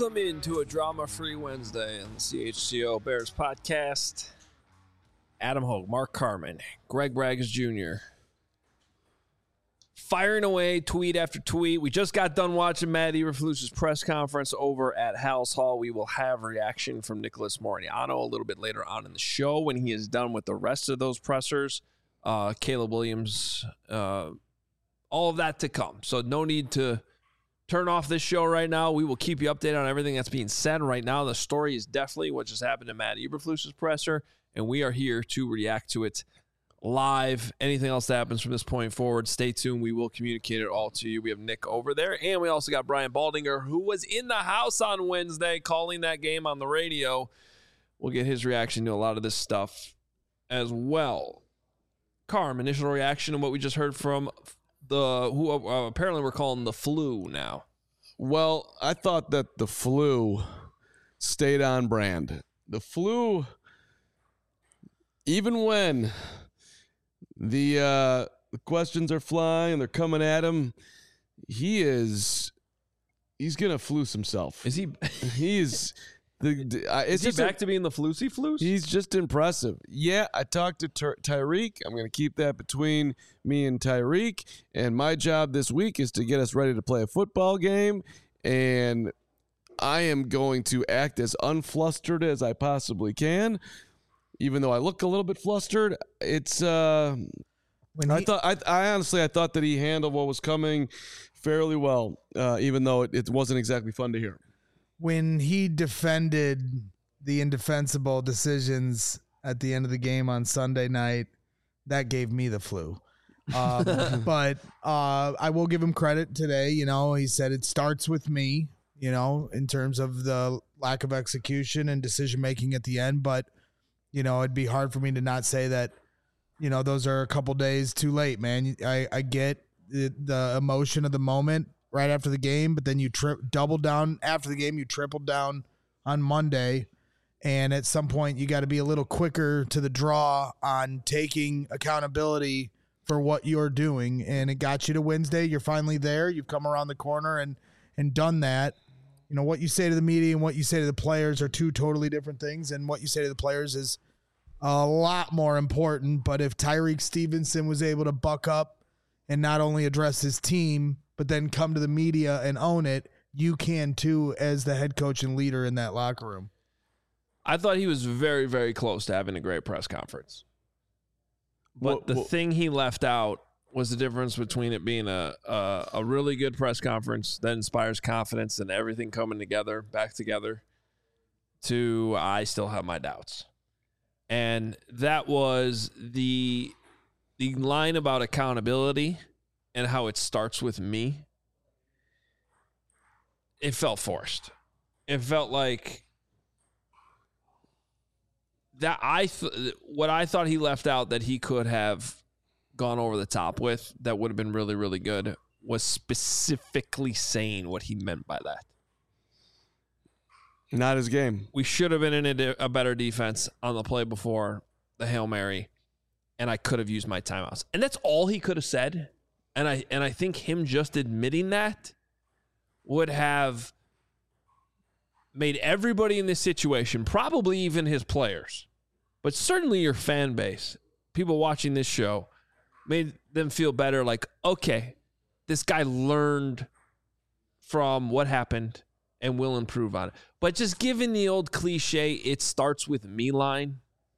Welcome into a drama-free Wednesday on the CHGO Bears podcast. Adam Hogue, Mark Carman, Greg Braggs Jr. firing away tweet after tweet. We just got done watching Matt Eberflus's press conference over at Halas Hall. We will have reaction from Nicholas Moreñano a little bit later on in the show when he is done with the rest of those pressers. Caleb Williams, all of that to come. So no need to turn off this show right now. We will keep you updated on everything that's being said right now. The story is definitely what just happened to Matt Eberflus's presser, and we are here to react to it live. Anything else that happens from this point forward, stay tuned. We will communicate it all to you. We have Nick over there, and we also got Brian Baldinger, who was in the house on Wednesday calling that game on the radio. We'll get his reaction to a lot of this stuff as well. Carm, initial reaction to what we just heard from who apparently we're calling the flu now. Well, I thought that the flu stayed on brand. The flu, even when the questions are flying and they're coming at him, he's gonna flus himself. Is he? He's is he back to being the flusy flus? He's just impressive. Yeah, I talked to Tyreek. I'm going to keep that between me and Tyreek. And my job this week is to get us ready to play a football game. And I am going to act as unflustered as I possibly can. Even though I look a little bit flustered, it's I honestly thought that he handled what was coming fairly well, even though it wasn't exactly fun to hear. When he defended the indefensible decisions at the end of the game on Sunday night, that gave me the flu. But I will give him credit today. You know, he said it starts with me, you know, in terms of the lack of execution and decision-making at the end. But, you know, it'd be hard for me to not say that, you know, those are a couple days too late, man. I get the emotion of the moment right after the game, but then you doubled down after the game. You tripled down on Monday, and at some point you got to be a little quicker to the draw on taking accountability for what you're doing. And it got you to Wednesday. You're finally there. You've come around the corner and done that. You know, what you say to the media and what you say to the players are two totally different things, and what you say to the players is a lot more important. But if Tyreek Stevenson was able to buck up and not only address his team, but then come to the media and own it, you can too as the head coach and leader in that locker room. I thought he was very, very close to having a great press conference. But the thing he left out was the difference between it being a really good press conference that inspires confidence and everything coming together, back together, to I still have my doubts. And that was the line about accountability and how it starts with me. It felt forced. It felt like that what I thought he left out that he could have gone over the top with that would have been really, really good was specifically saying what he meant by that. Not his game. We should have been in a better defense on the play before the Hail Mary, and I could have used my timeouts. And that's all he could have said. And I think him just admitting that would have made everybody in this situation, probably even his players, but certainly your fan base, people watching this show, made them feel better. Like, okay, this guy learned from what happened and will improve on it. But just given the old cliche, it starts with me line.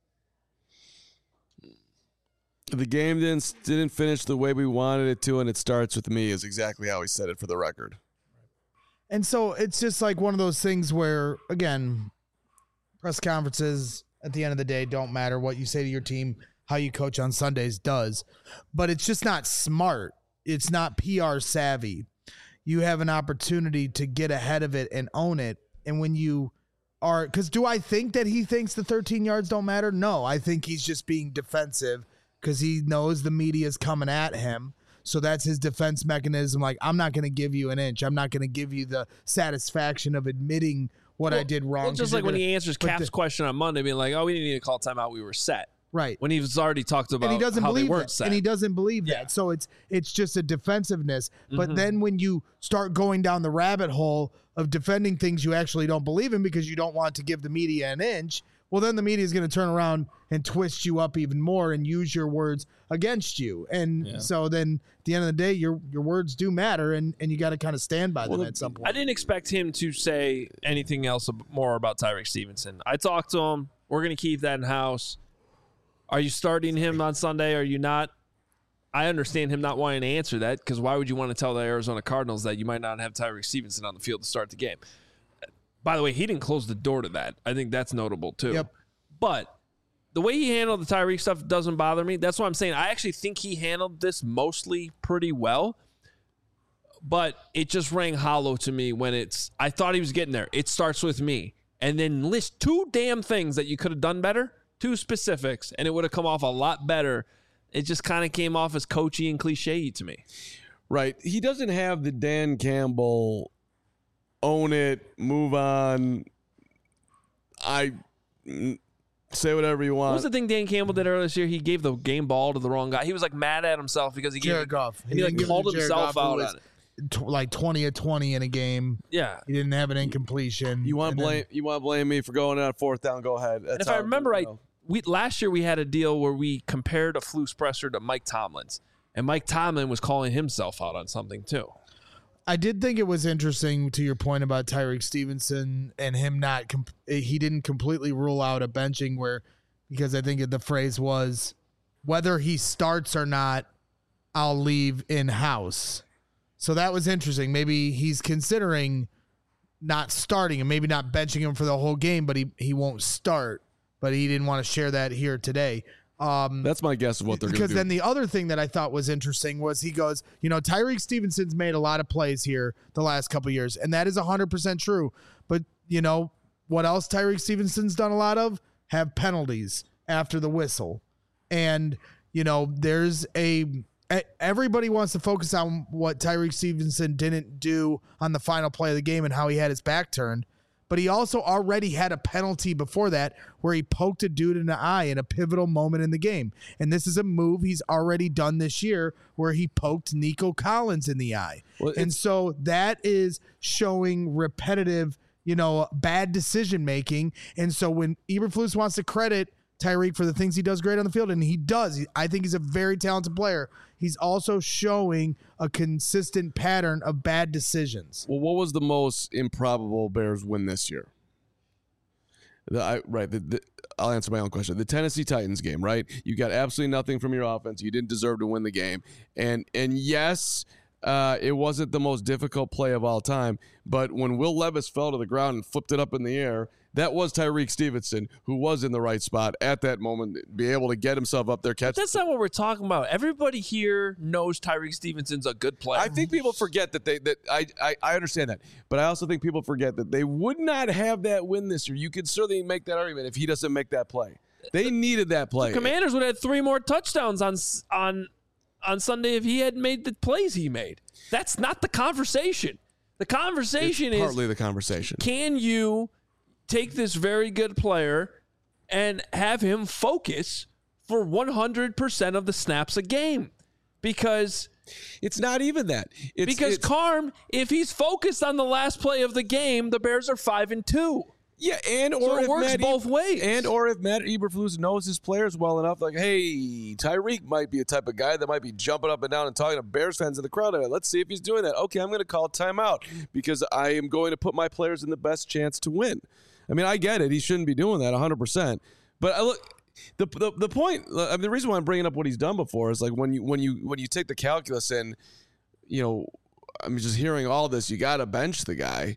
The game didn't finish the way we wanted it to, and it starts with me is exactly how he said it for the record. And so it's just like one of those things where, again, press conferences at the end of the day don't matter. What you say to your team, how you coach on Sundays does. But it's just not smart. It's not PR savvy. You have an opportunity to get ahead of it and own it. And when you are, because do I think that he thinks the 13 yards don't matter? No, I think he's just being defensive because he knows the media is coming at him. So that's his defense mechanism. Like, I'm not going to give you an inch. I'm not going to give you the satisfaction of admitting what I did wrong. Well, just like when he answers Cap's question on Monday, being like, oh, we didn't need to call timeout. We were set. Right. When he's already talked about and he doesn't how believe they weren't that. set. And he doesn't believe that. So it's just a defensiveness. But then when you start going down the rabbit hole of defending things you actually don't believe in because you don't want to give the media an inch, well, then the media is going to turn around and twist you up even more and use your words against you. And so then at the end of the day, your words do matter, and you got to kind of stand by them at some point. I didn't expect him to say anything else more about Tyreek Stevenson. I talked to him. We're going to keep that in-house. Are you starting him on Sunday? Are you not? I understand him not wanting to answer that, because why would you want to tell the Arizona Cardinals that you might not have Tyreek Stevenson on the field to start the game? By the way, he didn't close the door to that. I think that's notable, too. Yep. But the way he handled the Tyreek stuff doesn't bother me. That's what I'm saying. I actually think he handled this mostly pretty well. But it just rang hollow to me when I thought he was getting there. It starts with me. And then list 2 damn things that you could have done better, 2 specifics, and it would have come off a lot better. It just kind of came off as coachy and cliche to me. Right. He doesn't have the Dan Campbell own it, move on. Say whatever you want. What was the thing Dan Campbell did earlier this year? He gave the game ball to the wrong guy. He was like mad at himself because he gave Jared Goff. And he called himself out on it. Like 20 of 20 in a game. Yeah. He didn't have an incompletion. You want to blame me for going on 4th down? Go ahead. If I remember right, last year we had a deal where we compared a Flus presser to Mike Tomlin's, and Mike Tomlin was calling himself out on something too. I did think it was interesting to your point about Tyreek Stevenson and him he didn't completely rule out a benching because I think the phrase was, whether he starts or not, I'll leave in-house. So that was interesting. Maybe he's considering not starting and maybe not benching him for the whole game, but he won't start. But he didn't want to share that here today. That's my guess of what they're going to do. Because then the other thing that I thought was interesting was he goes, Tyreek Stevenson's made a lot of plays here the last couple of years, and that is 100% true. But, what else Tyreek Stevenson's done a lot of? Have penalties after the whistle. And, everybody wants to focus on what Tyreek Stevenson didn't do on the final play of the game and how he had his back turned. But he also already had a penalty before that where he poked a dude in the eye in a pivotal moment in the game. And this is a move he's already done this year where he poked Nico Collins in the eye. And so that is showing repetitive, bad decision making. And so when Eberflus wants to credit Tyreek for the things he does great on the field, and he does, I think he's a very talented player, he's also showing a consistent pattern of bad decisions. Well, what was the most improbable Bears win this year? I'll answer my own question. The Tennessee Titans game, right? You got absolutely nothing from your offense. You didn't deserve to win the game. And yes, it wasn't the most difficult play of all time, but when Will Levis fell to the ground and flipped it up in the air, that was Tyreek Stevenson, who was in the right spot at that moment, be able to get himself up there, catch. But that's not what we're talking about. Everybody here knows Tyreek Stevenson's a good player. I think people forget that I understand that, but I also think people forget that they would not have that win this year. You could certainly make that argument if he doesn't make that play. They needed that play. The Commanders would have had 3 more touchdowns on Sunday if he had made the plays he made. That's not the conversation. The conversation is partly partly the conversation. Can you take this very good player and have him focus for 100% of the snaps a game? Because it's not even that. Because Carm, if he's focused on the last play of the game, the Bears are 5-2. Yeah, so it works both ways. Or if Matt Eberflus knows his players well enough, like, hey, Tyreek might be a type of guy that might be jumping up and down and talking to Bears fans in the crowd. Let's see if he's doing that. Okay, I'm going to call timeout because I am going to put my players in the best chance to win. I mean, I get it. He shouldn't be doing that 100%. But the point. I mean, the reason why I'm bringing up what he's done before is like when you take the calculus and I'm just hearing all this. You got to bench the guy.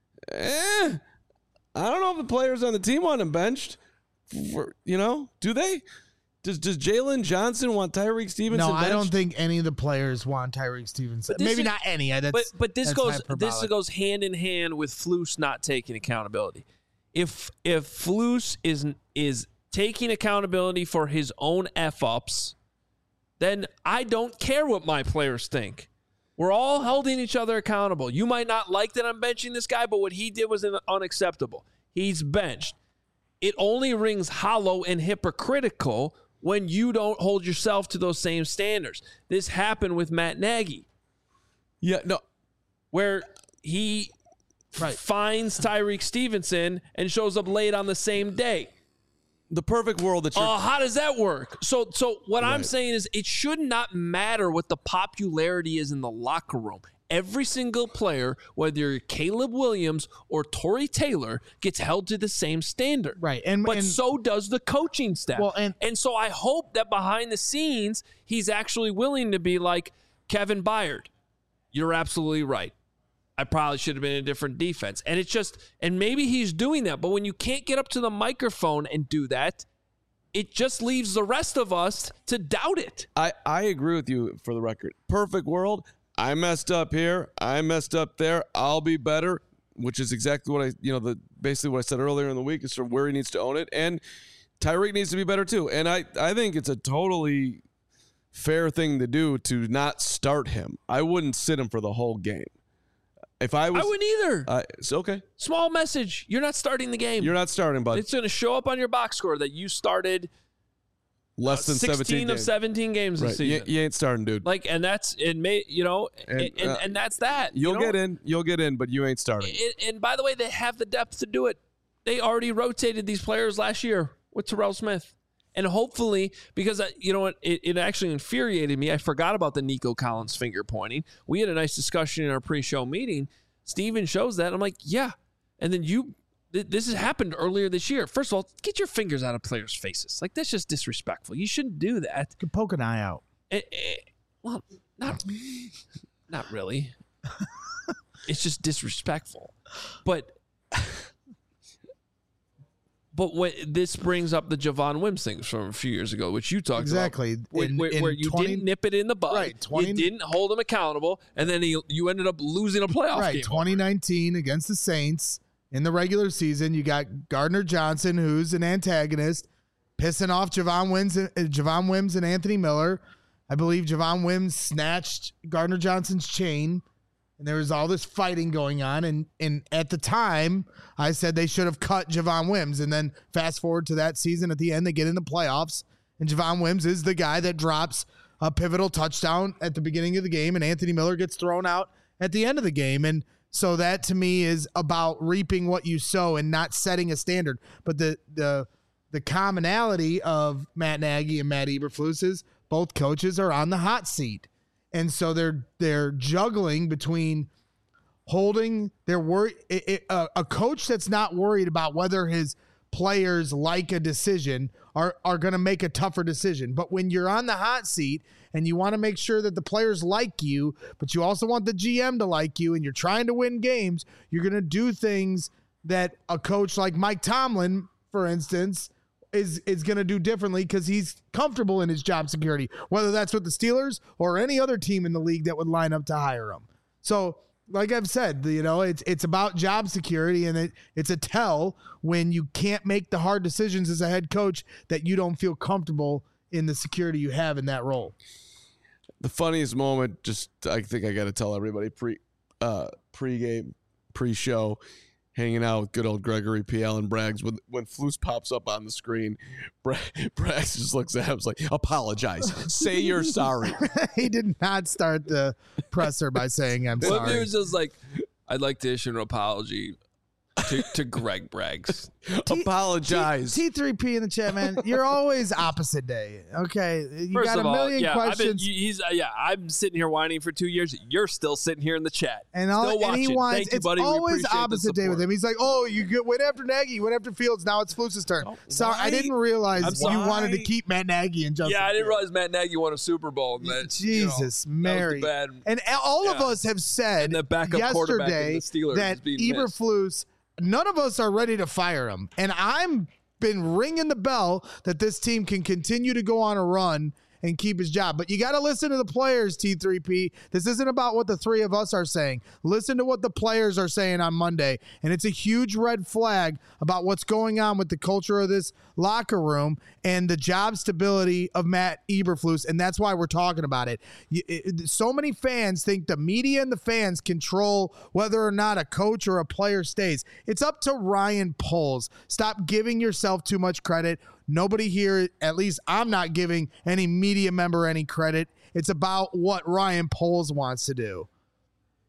I don't know if the players on the team want him benched. Do they? Does Jalen Johnson want Tyreek Stevenson benched? No, I don't think any of the players want Tyreek Stevenson. Maybe not any. But this goes hand in hand with Flus not taking accountability. If Flus is taking accountability for his own F-ups, then I don't care what my players think. We're all holding each other accountable. You might not like that I'm benching this guy, but what he did was unacceptable. He's benched. It only rings hollow and hypocritical when you don't hold yourself to those same standards. This happened with Matt Nagy. Yeah, no. Where he finds Tyreek Stevenson and shows up late on the same day. The perfect world that you're... How does that work? So what I'm saying is it should not matter what the popularity is in the locker room. Every single player, whether you're Caleb Williams or Torrey Taylor, gets held to the same standard. Right. But so does the coaching staff. Well, and so I hope that behind the scenes, he's actually willing to be like, Kevin Byard, you're absolutely right. I probably should have been in a different defense. And it's just, and maybe he's doing that. But when you can't get up to the microphone and do that, it just leaves the rest of us to doubt it. I agree with you for the record. Perfect world. I messed up here. I messed up there. I'll be better, which is exactly what basically what I said earlier in the week is from where he needs to own it. And Tyreek needs to be better too. And I think it's a totally fair thing to do to not start him. I wouldn't sit him for the whole game. If I wouldn't either. It's okay. Small message. You're not starting the game. You're not starting, bud. It's going to show up on your box score that you started less than 16 of 17 games this season. You ain't starting, dude. And that's and that's that. You'll get in, but you ain't starting. And by the way, they have the depth to do it. They already rotated these players last year with Terrell Smith. And hopefully, because it actually infuriated me. I forgot about the Nico Collins finger pointing. We had a nice discussion in our pre-show meeting. Steven shows that. I'm like, yeah. And then this has happened earlier this year. First of all, get your fingers out of players' faces. Like, that's just disrespectful. You shouldn't do that. You can poke an eye out. Well, not really. It's just disrespectful. But what this brings up the Javon Wims thing from a few years ago, which you talked about. Exactly. Where you didn't nip it in the bud. Right. You didn't hold him accountable, and then you ended up losing a playoff game. Right. 2019 against the Saints in the regular season, you got Gardner Johnson, who's an antagonist, pissing off Javon Wims and Anthony Miller. I believe Javon Wims snatched Gardner Johnson's chain. And there was all this fighting going on. And at the time, I said they should have cut Javon Wims. And then fast forward to that season, at the end, they get in the playoffs. And Javon Wims is the guy that drops a pivotal touchdown at the beginning of the game. And Anthony Miller gets thrown out at the end of the game. And so that, to me, is about reaping what you sow and not setting a standard. But the commonality of Matt Nagy and Matt Eberflus is both coaches are on the hot seat. And so they're juggling between holding their worry. A coach that's not worried about whether his players like a decision are going to make a tougher decision. But when you're on the hot seat and you want to make sure that the players like you, but you also want the GM to like you, and you're trying to win games, you're going to do things that a coach like Mike Tomlin, for instance, is going to do differently because he's comfortable in his job security, whether that's with the Steelers or any other team in the league that would line up to hire him. So, like I've said, it's about job security, and it's a tell when you can't make the hard decisions as a head coach that you don't feel comfortable in the security you have in that role. The funniest moment, I think I got to tell everybody pre-game, pre-show, hanging out with good old Gregory P. Allen Braggs. When Flus pops up on the screen, Braggs just looks at him and like, apologize. Say you're sorry. He did not start the presser by saying, I'm sorry. Well, he was just like, I'd like to issue an apology to Greg Braggs. Apologize. T3P in the chat, man. You're always opposite day. Okay. You First got a million questions. I'm sitting here whining for 2 years. You're still sitting here in the chat. And he wants, Thank you, it's buddy. always opposite day with him. He's like, oh, you went after Nagy, you went after Fields. Now it's Flus's turn. Oh, Sorry, I didn't realize you wanted to keep Matt Nagy and Justin. Yeah, I didn't realize Matt Nagy won a Super Bowl. And that, Jesus, Mary. That was and all of us have said yesterday that Eberflus, none of us are ready to fire him. And I'm been ringing the bell that this team can continue to go on a run and keep his job. But you got to listen to the players, T3P. This isn't about what the three of us are saying. Listen to what the players are saying on Monday. And it's a huge red flag about what's going on with the culture of this locker room and the job stability of Matt Eberflus. And that's why we're talking about it. So many fans think the media and the fans control whether or not a coach or a player stays. It's up to Ryan Poles. Stop giving yourself too much credit. Nobody here, at least I'm not giving any media member any credit. It's about what Ryan Poles wants to do.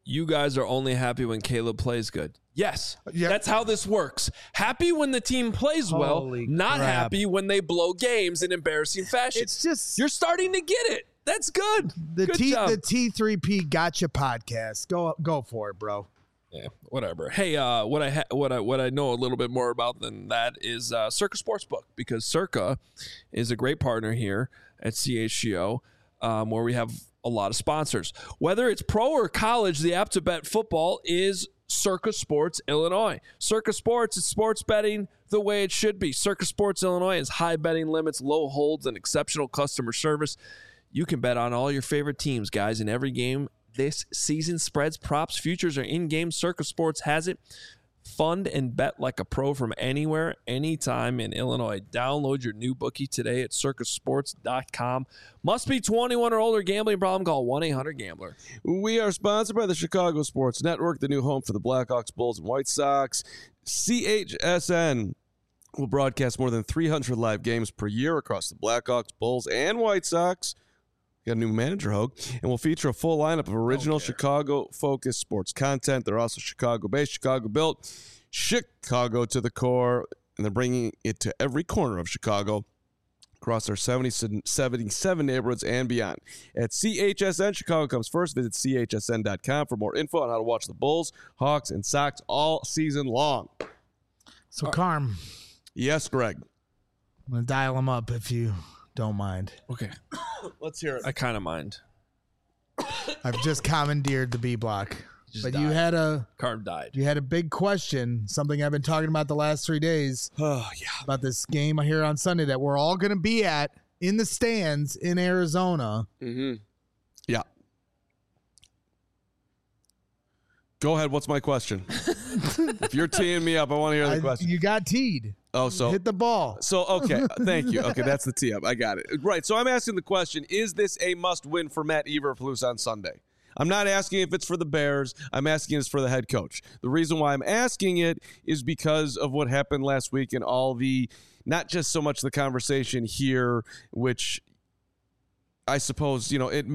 You guys are only happy when Caleb plays good. Yes, Yep. that's how this works. Happy when the team plays well, Holy not crap. happy when they blow games in embarrassing fashion. It's just You're starting to get it. That's good. the Good job. the T3P Gotcha podcast. Go for it, bro. Yeah, whatever. Hey, what I know a little bit more about than that is Circa Sportsbook, because Circa is a great partner here at CHGO, where we have a lot of sponsors. Whether it's pro or college, the app to bet football is Circa Sports Illinois. Circa Sports is sports betting the way it should be. Circa Sports Illinois has high betting limits, low holds, and exceptional customer service. You can bet on all your favorite teams, guys, in every game this season. Spreads, props, futures, or in-game. Circa Sports has it. Fund and bet like a pro from anywhere, anytime in Illinois. Download your new bookie today at circasports.com. Must be 21 or older. Gambling problem? Call 1-800-GAMBLER. We are sponsored by the Chicago Sports Network, the new home for the Blackhawks, Bulls, and White Sox. CHSN will broadcast more than 300 live games per year across the Blackhawks, Bulls, and White Sox. Got a new manager, Hogue, and will feature a full lineup of original Chicago-focused sports content. They're also Chicago-based, Chicago-built, Chicago to the core, and they're bringing it to every corner of Chicago across their 77 neighborhoods and beyond. At CHSN, Chicago comes first. Visit chsn.com for more info on how to watch the Bulls, Hawks, and Sox all season long. So, Carm, Yes, Greg. I'm going to dial him up if you don't mind. Okay. Let's hear it. I kind of mind. I've just commandeered the B block. Just But died. Carm died. you had a big question, something I've been talking about the last 3 days, Oh, yeah. about this game here on Sunday that we're all going to be at in the stands in Arizona. Mm-hmm. Yeah. Go ahead. What's my question? If you're teeing me up, I want to hear the question. You got teed. Oh, so Hit the ball. So, okay, thank you. Okay, that's the tee up. I got it. Right, so I'm asking the question, is this a must-win for Matt Eberflus on Sunday? I'm not asking if it's for the Bears. I'm asking it's for the head coach. The reason why I'm asking it is because of what happened last week and all the, not just so much the conversation here, which I suppose, you know, it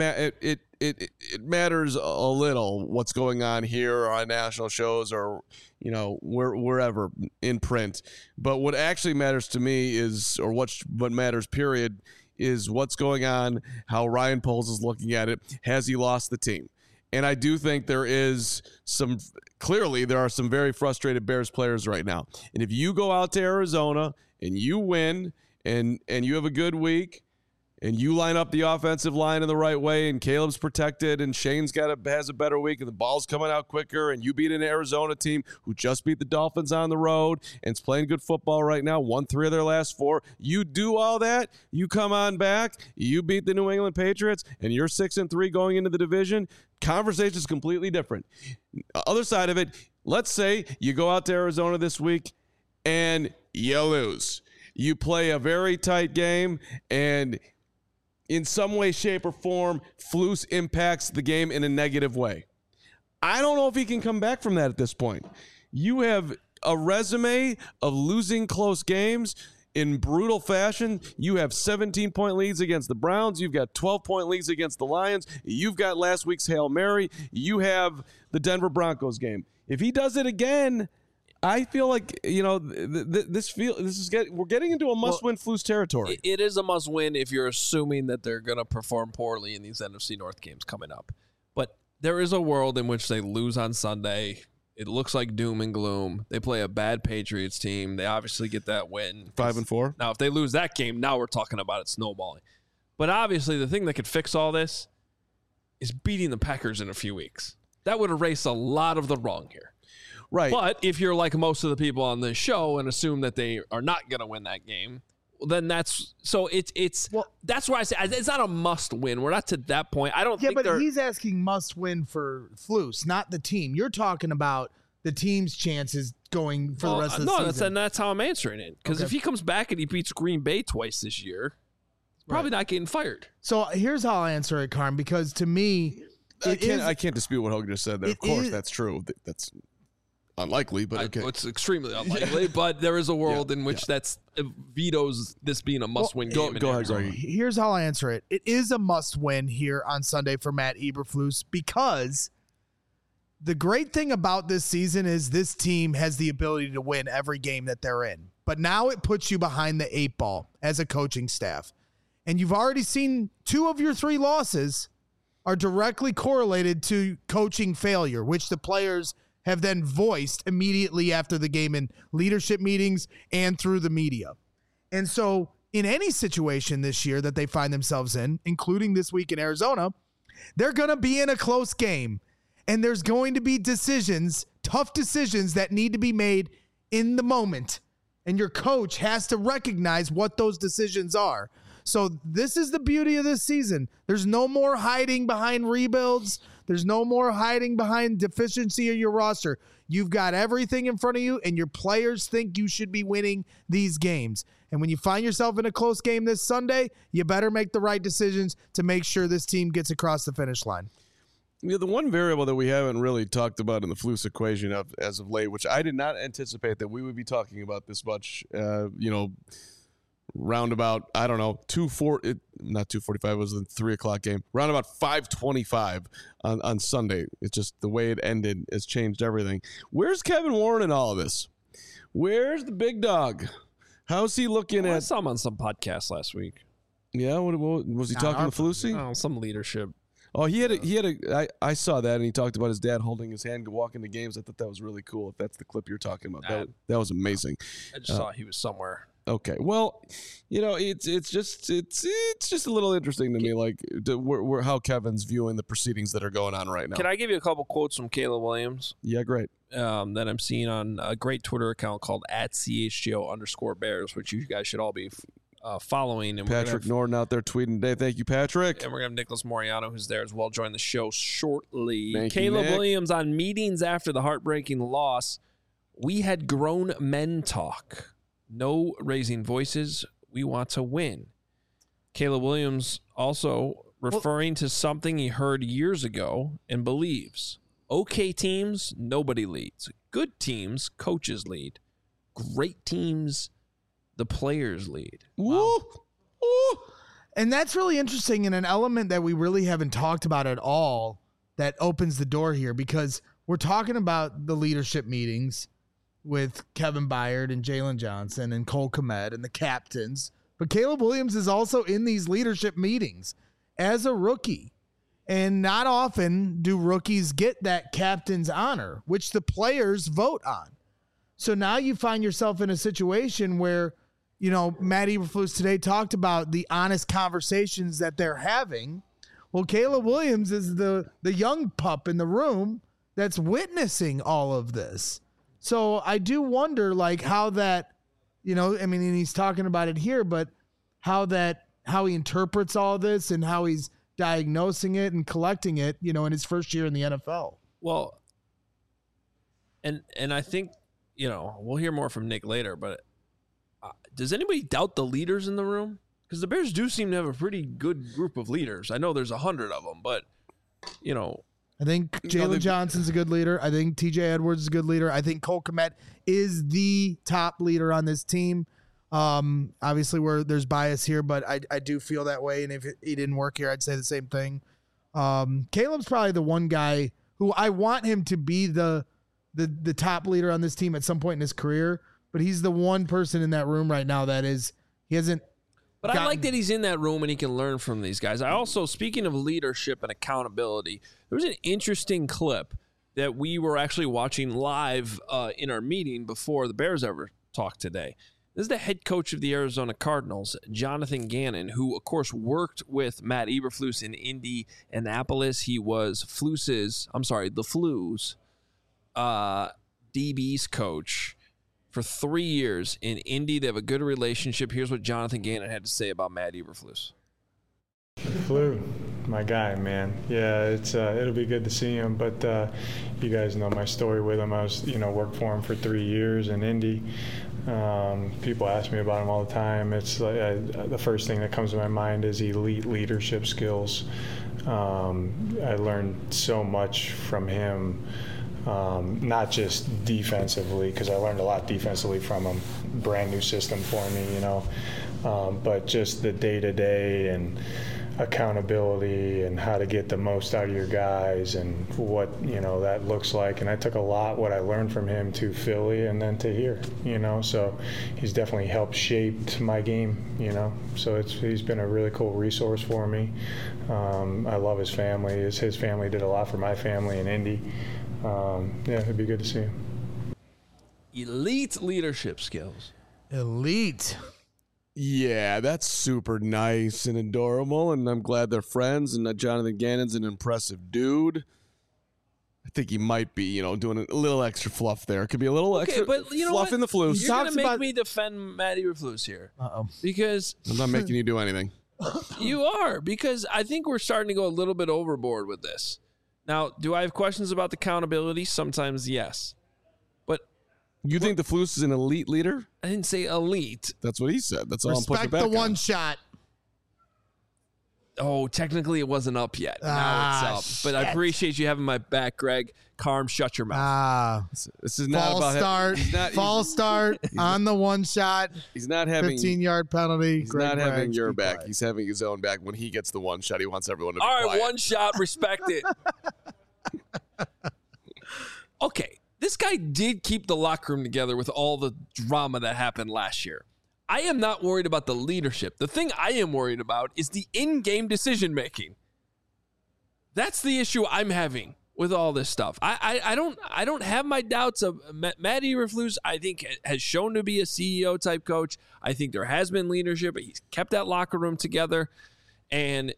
matters a little what's going on here or on national shows or, you know, wherever in print. But what actually matters to me is, or what matters, period, is what's going on, how Ryan Poles is looking at it. Has he lost the team? And I do think there are some very frustrated Bears players right now. And if you go out to Arizona and you win and you have a good week, and you line up the offensive line in the right way, and Caleb's protected, and Shane's has a better week, and the ball's coming out quicker, and you beat an Arizona team who just beat the Dolphins on the road and is playing good football right now, won 3 of their last 4. You do all that, you come on back, you beat the New England Patriots, and you're 6-3 going into the division. Conversation is completely different. Other side of it, let's say you go out to Arizona this week and you lose. You play a very tight game, and in some way, shape, or form, Flus impacts the game in a negative way. I don't know if he can come back from that at this point. You have a resume of losing close games in brutal fashion. You have 17-point leads against the Browns. You've got 12-point leads against the Lions. You've got last week's Hail Mary. You have the Denver Broncos game. If he does it again, I feel like, you know, we're getting into a must-win Flus territory. It is a must-win if you're assuming that they're going to perform poorly in these NFC North games coming up. But there is a world in which they lose on Sunday. It looks like doom and gloom. They play a bad Patriots team. They obviously get that win. 5-4. Now, if they lose that game, now we're talking about it snowballing. But obviously, the thing that could fix all this is beating the Packers in a few weeks. That would erase a lot of the wrong here. Right. But if you're like most of the people on this show and assume that they are not going to win that game, then that's why I say it's not a must win. We're not to that point. I don't think but he's asking must win for Flus, not the team. You're talking about the team's chances going for the rest of the season. That's how I'm answering it. Because if he comes back and he beats Green Bay twice this year, probably not getting fired. So here's how I'll answer it, Carm, because to me, I can't dispute what Hogan just said there. Of course, that's true. That's unlikely, but okay. It's extremely unlikely, but there is a world in which that's vetoes this being a must-win game. Go ahead, Greg. Here's how I answer it. It is a must-win here on Sunday for Matt Eberflus because the great thing about this season is this team has the ability to win every game that they're in. But now it puts you behind the 8 ball as a coaching staff. And you've already seen 2 of your 3 losses are directly correlated to coaching failure, which the players have then voiced immediately after the game in leadership meetings and through the media. And so in any situation this year that they find themselves in, including this week in Arizona, they're going to be in a close game. And there's going to be decisions, tough decisions that need to be made in the moment. And your coach has to recognize what those decisions are. So this is the beauty of this season. There's no more hiding behind rebuilds. There's no more hiding behind deficiency of your roster. You've got everything in front of you, and your players think you should be winning these games. And when you find yourself in a close game this Sunday, you better make the right decisions to make sure this team gets across the finish line. Yeah, the one variable that we haven't really talked about in the Flus equation as of late, which I did not anticipate that we would be talking about this much, round about, I don't know, not 2:45, it was the 3 o'clock game, round about 5:25 on Sunday. It's just the way it ended has changed everything. Where's Kevin Warren in all of this? Where's the big dog? How's he looking I at? saw him on some podcast last week. Yeah, what was he talking to Flusy? Oh, some leadership. Oh, I saw that, and he talked about his dad holding his hand to walk into games. I thought that was really cool. If that's the clip you're talking about, that was amazing. I just saw he was somewhere. Okay, well, it's just a little interesting to me, like how Kevin's viewing the proceedings that are going on right now. Can I give you a couple quotes from Caleb Williams? Yeah, great. That I'm seeing on a great Twitter account called @CHGO_Bears, which you guys should all be following. And Patrick Norton out there tweeting today. Thank you, Patrick. And we're going to have Nicholas Moriano, who's there as well, join the show shortly. Thank you, Caleb Nick. Williams on meetings after the heartbreaking loss. We had grown men talk. No raising voices. We want to win. Caleb Williams also referring to something he heard years ago and believes. Okay teams, nobody leads. Good teams, coaches lead. Great teams, the players lead. Woo! Woo! And that's really interesting, and an element that we really haven't talked about at all that opens the door here, because we're talking about the leadership meetings with Kevin Byard and Jalen Johnson and Cole Kmet and the captains. But Caleb Williams is also in these leadership meetings as a rookie. And not often do rookies get that captain's honor, which the players vote on. So now you find yourself in a situation where, Matt Eberflus today talked about the honest conversations that they're having. Well, Caleb Williams is the young pup in the room that's witnessing all of this. So I do wonder, how that, and he's talking about it here, but how he interprets all this and how he's diagnosing it and collecting it, in his first year in the NFL. Well, and I think, we'll hear more from Nick later, but does anybody doubt the leaders in the room? Because the Bears do seem to have a pretty good group of leaders. I know there's 100 of them, but, I think Jalen Johnson's a good leader. I think TJ Edwards is a good leader. I think Cole Kmet is the top leader on this team. Obviously, there's bias here, but I do feel that way. And if he didn't work here, I'd say the same thing. Caleb's probably the one guy who I want him to be the top leader on this team at some point in his career. But he's the one person in that room right now he hasn't. But I like that he's in that room and he can learn from these guys. I also, speaking of leadership and accountability, there was an interesting clip that we were actually watching live in our meeting before the Bears ever talked today. This is the head coach of the Arizona Cardinals, Jonathan Gannon, who, of course, worked with Matt Eberflus in Indianapolis. He was the Flu's DB's coach for 3 years in Indy. They have a good relationship. Here's what Jonathan Gannon had to say about Matt Eberflus. Flu, my guy, man. Yeah, it'll be good to see him. But you guys know my story with him. I was, worked for him for 3 years in Indy. People ask me about him all the time. It's the first thing that comes to my mind is elite leadership skills. I learned so much from him. Not just defensively, because I learned a lot defensively from him. Brand new system for me, but just the day-to-day and accountability and how to get the most out of your guys and what, that looks like. And I took a lot what I learned from him to Philly and then to here, so he's definitely helped shape my game, so he's been a really cool resource for me. I love his family. His family did a lot for my family in Indy. It'd be good to see him. Elite leadership skills. Elite. Yeah, that's super nice and adorable, and I'm glad they're friends, and that Jonathan Gannon's an impressive dude. I think he might be, doing a little extra fluff there. It could be a little extra fluff in the flus. You're going to make me defend Matty Eberflus here. Uh-oh. Because I'm not making you do anything. You are, because I think we're starting to go a little bit overboard with this. Now, do I have questions about the accountability? Sometimes, yes. You think the Flus is an elite leader? I didn't say elite. That's what he said. That's all I'm putting Respect back the on. one shot. Oh, technically it wasn't up yet. Now it's up. But I appreciate you having my back, Greg. Carm, shut your mouth. This is not False about start. False start on the one shot. He's not having 15-yard penalty. He's not having your back. He's having his own back. When he gets the one shot, he wants everyone to be all right, quiet. one shot. Respect it. Okay. This guy did keep the locker room together with all the drama that happened last year. I am not worried about the leadership. The thing I am worried about is the in-game decision-making. That's the issue I'm having with all this stuff. I don't have my doubts of Matty Eberflus. I think has shown to be a CEO type coach. I think there has been leadership, but he's kept that locker room together. And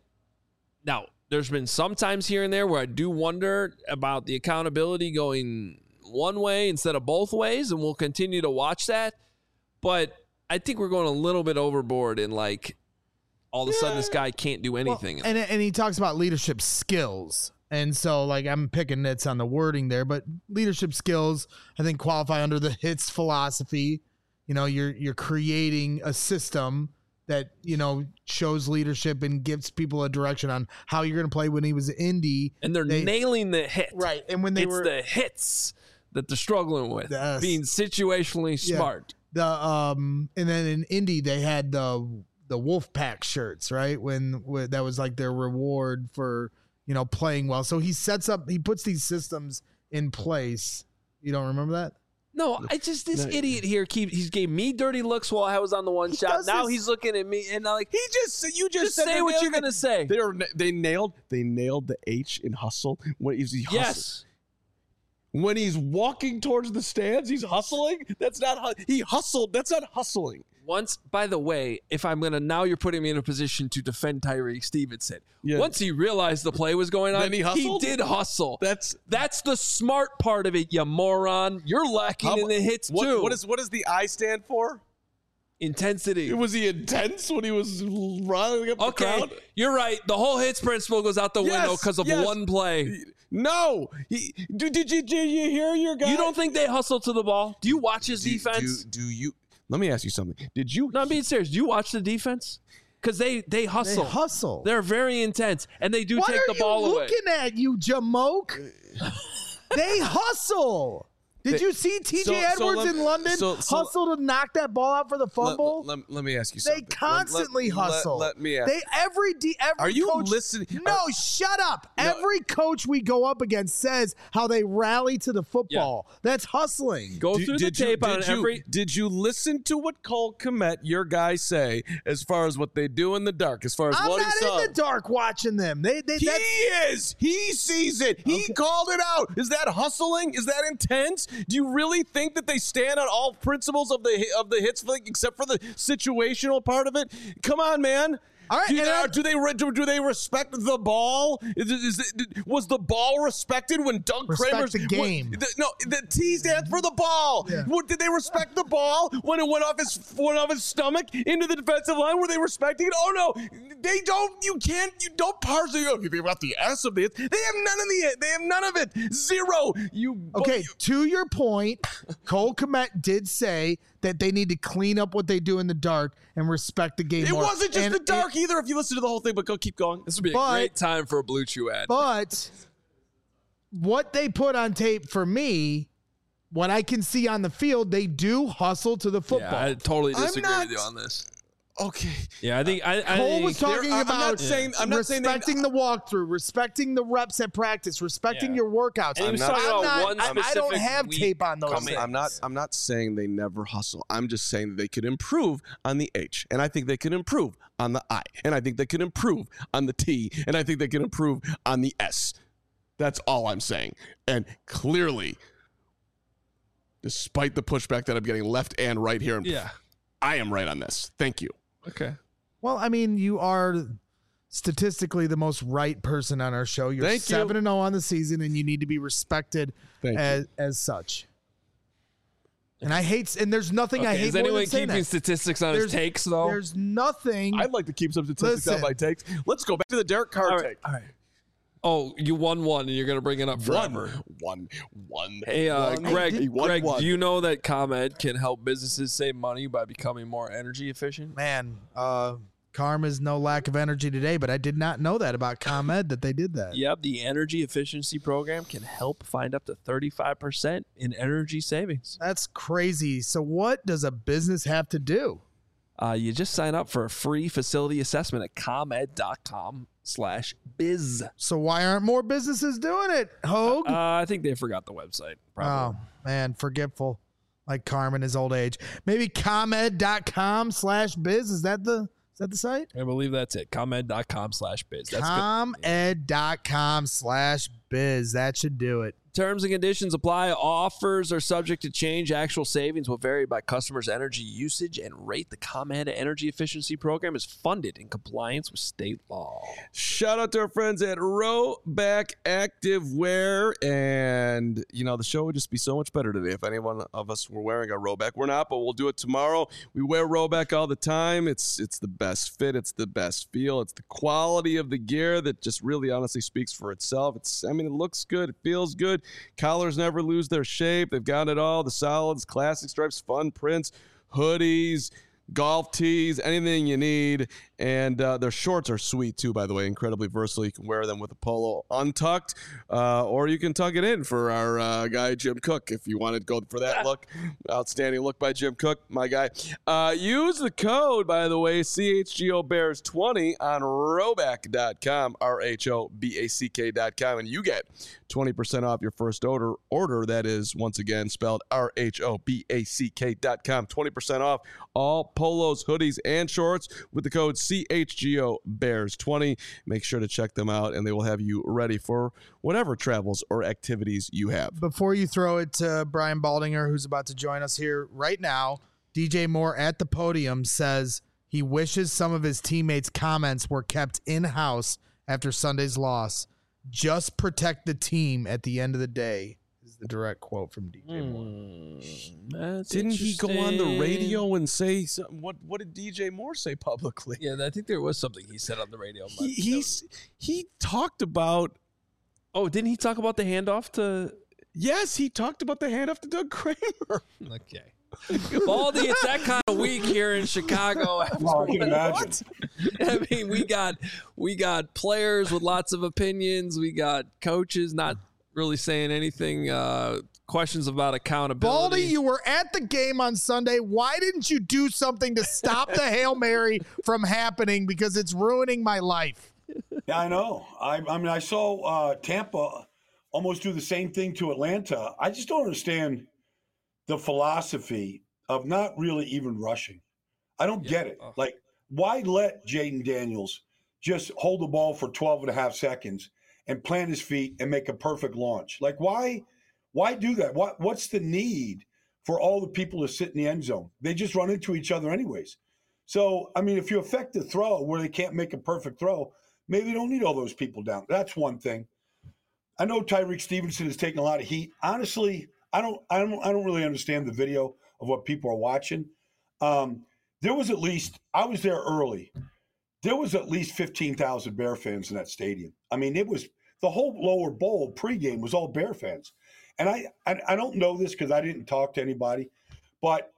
now there's been some times here and there where I do wonder about the accountability going one way instead of both ways, and we'll continue to watch that. But I think we're going a little bit overboard in all of a sudden this guy can't do anything. Well, and he talks about leadership skills. And so I'm picking nits on the wording there, but leadership skills, I think, qualify under the HITS philosophy. You're creating a system that, shows leadership and gives people a direction on how you're going to play. When he was in Indy. And they're nailing the hit. Right. And when it's the hits that they're struggling with, being situationally smart. And then in Indy they had the Wolfpack shirts, right? When that was their reward for playing well. So he puts these systems in place. You don't remember that? No, idiot here he's gave me dirty looks while I was on the one shot. Now he's looking at me and you just said say what you're gonna say. They nailed the H in hustle. Yes. When he's walking towards the stands, he's hustling. He hustled. That's not hustling. Once, by the way, now you're putting me in a position to defend Tyreek Stevenson. Yeah. Once he realized the play was going on, then he did hustle. That's the smart part of it, you moron. You're lacking in the hits too. What does the I stand for? Intensity. Was he intense when he was riling up the crowd? Okay, you're right. The whole hits principle goes out the window because of one play. No. Did you hear your guy? You don't think they hustle to the ball? Do you watch his defense? Do you? Let me ask you something. Did you? No, I'm being serious. Do you watch the defense? Because they hustle. They hustle. They're very intense, and they do take the ball away. What are you looking at, you jamoke? They hustle. Did you see TJ Edwards in London hustle to knock that ball out for the fumble? Let me ask you something. They constantly hustle. Let me ask. Every Are you coach, listening? No, shut up. No. Every coach we go up against says how they rally to the football. Yeah. That's hustling. Go through the tape on every. Did you listen to what Cole Kmet, your guy, say as far as what they do in the dark? As far as what he saw. I'm not in the dark watching them. He is. He sees it. He called it out. Is that hustling? Is that intense? Do you really think that they stand on all principles of the hits except for the situational part of it? Come on, man. All right, do they respect the ball? Was the ball respected when Doug Kramer's the game? The T stands for the ball. Yeah. Did they respect the ball when it went off his stomach into the defensive line? Were they respecting it? Oh no, they don't. You don't parse it. You've got the S of it. They have none of it. Zero. To your point, Cole Kmet did say that they need to clean up what they do in the dark and respect the game more. It wasn't just the dark either, if you listen to the whole thing, but keep going. This would be a great time for a Blue Chew ad. But what they put on tape for me, what I can see on the field, they do hustle to the football. Yeah, I totally disagree with you on this. Okay. Yeah, I think I Cole think was talking I'm about not saying respecting the walkthrough, respecting the reps at practice, respecting your workouts. And he was I'm talking about not- one I don't specific have week tape on those coming. things. I'm not saying they never hustle. I'm just saying that they could improve on the H, and I think they could improve on the I, and I think they could improve on the T, and I think they can improve on the S. That's all I'm saying. And clearly, despite the pushback that I'm getting left and right here, I am right on this. Thank you. Okay. Well, I mean, you are statistically the most right person on our show. You're Thank you. 7-0 on the season, and you need to be respected Thank as such. And I hate, and there's nothing I hate Is more anyone than saying keeping that. statistics on his takes, though? There's nothing. I'd like to keep some statistics on Listen. my takes. Let's go back to the Derek Carr take. All right. Oh, you won one, and you're going to bring it up forever. One. Hey, Greg, He won Greg, one. do you know that ComEd can help businesses save money by becoming more energy efficient? Man, Carm is no lack of energy today, but I did not know that about ComEd that they did that. Yep, the energy efficiency program can help find up to 35% in energy savings. That's crazy. So what does a business have to do? You just sign up for a free facility assessment at comed.com/biz. So why aren't more businesses doing it, Hogue? I think they forgot the website. Probably. Oh, man, forgetful. Like Carm in his old age. Maybe comed.com/biz. Is that the site? I believe that's it. ComEd.com/biz. That's good. Comed.com/biz. That should do it. Terms and conditions apply. Offers are subject to change. Actual savings will vary by customers' energy usage and rate. The ComEd Energy Efficiency Program is funded in compliance with state law. Shout out to our friends at Rowback Activewear. And, the show would just be so much better today if any one of us were wearing a Rowback. We're not, but we'll do it tomorrow. We wear Rowback all the time. It's the best fit. It's the best feel. It's the quality of the gear that just really honestly speaks for itself. It looks good. It feels good. Collars never lose their shape. They've got it all. The solids, classic stripes, fun prints, hoodies, golf tees, anything you need. And their shorts are sweet too, by the way, incredibly versatile. You can wear them with a polo untucked, or you can tuck it in for our guy Jim Cook if you want to go for that look. Outstanding look by Jim Cook, my guy. Use the code, by the way, CHGO Bears 20 on Rowback.com, RHOBACK.com, and you get 20% off your first order. That is, once again, spelled RHOBACK.com. 20% off all polos, hoodies, and shorts with the code CHGO Bears 20. Make sure to check them out, and they will have you ready for whatever travels or activities you have. Before you throw it to Brian Baldinger, who's about to join us here right now, DJ Moore at the podium says he wishes some of his teammates' comments were kept in-house after Sunday's loss. Just protect the team at the end of the day. Is the direct quote from DJ Moore. Didn't he go on the radio and say something? What did DJ Moore say publicly? Yeah, I think there was something he said on the radio. He talked about. Oh, didn't he talk about the handoff to? Yes, he talked about the handoff to Doug Kramer. Okay. Baldy, it's that kind of week here in Chicago. I can imagine. I mean, we got players with lots of opinions. We got coaches not really saying anything. Questions about accountability. Baldy, you were at the game on Sunday. Why didn't you do something to stop the Hail Mary from happening? Because it's ruining my life. Yeah, I know. I mean, I saw Tampa almost do the same thing to Atlanta. I just don't understand the philosophy of not really even rushing. I don't get it. Like, why let Jaden Daniels just hold the ball for 12 and a half seconds and plant his feet and make a perfect launch? Like, why do that? What's the need for all the people to sit in the end zone? They just run into each other anyways. So, I mean, if you affect the throw where they can't make a perfect throw, maybe you don't need all those people down. That's one thing. I know Tyreek Stevenson is taking a lot of heat. Honestly, I don't really understand the video of what people are watching. There was at least, I was there early. There was at least 15,000 Bear fans in that stadium. I mean, it was the whole lower bowl pregame was all Bear fans. And I don't know this because I didn't talk to anybody, but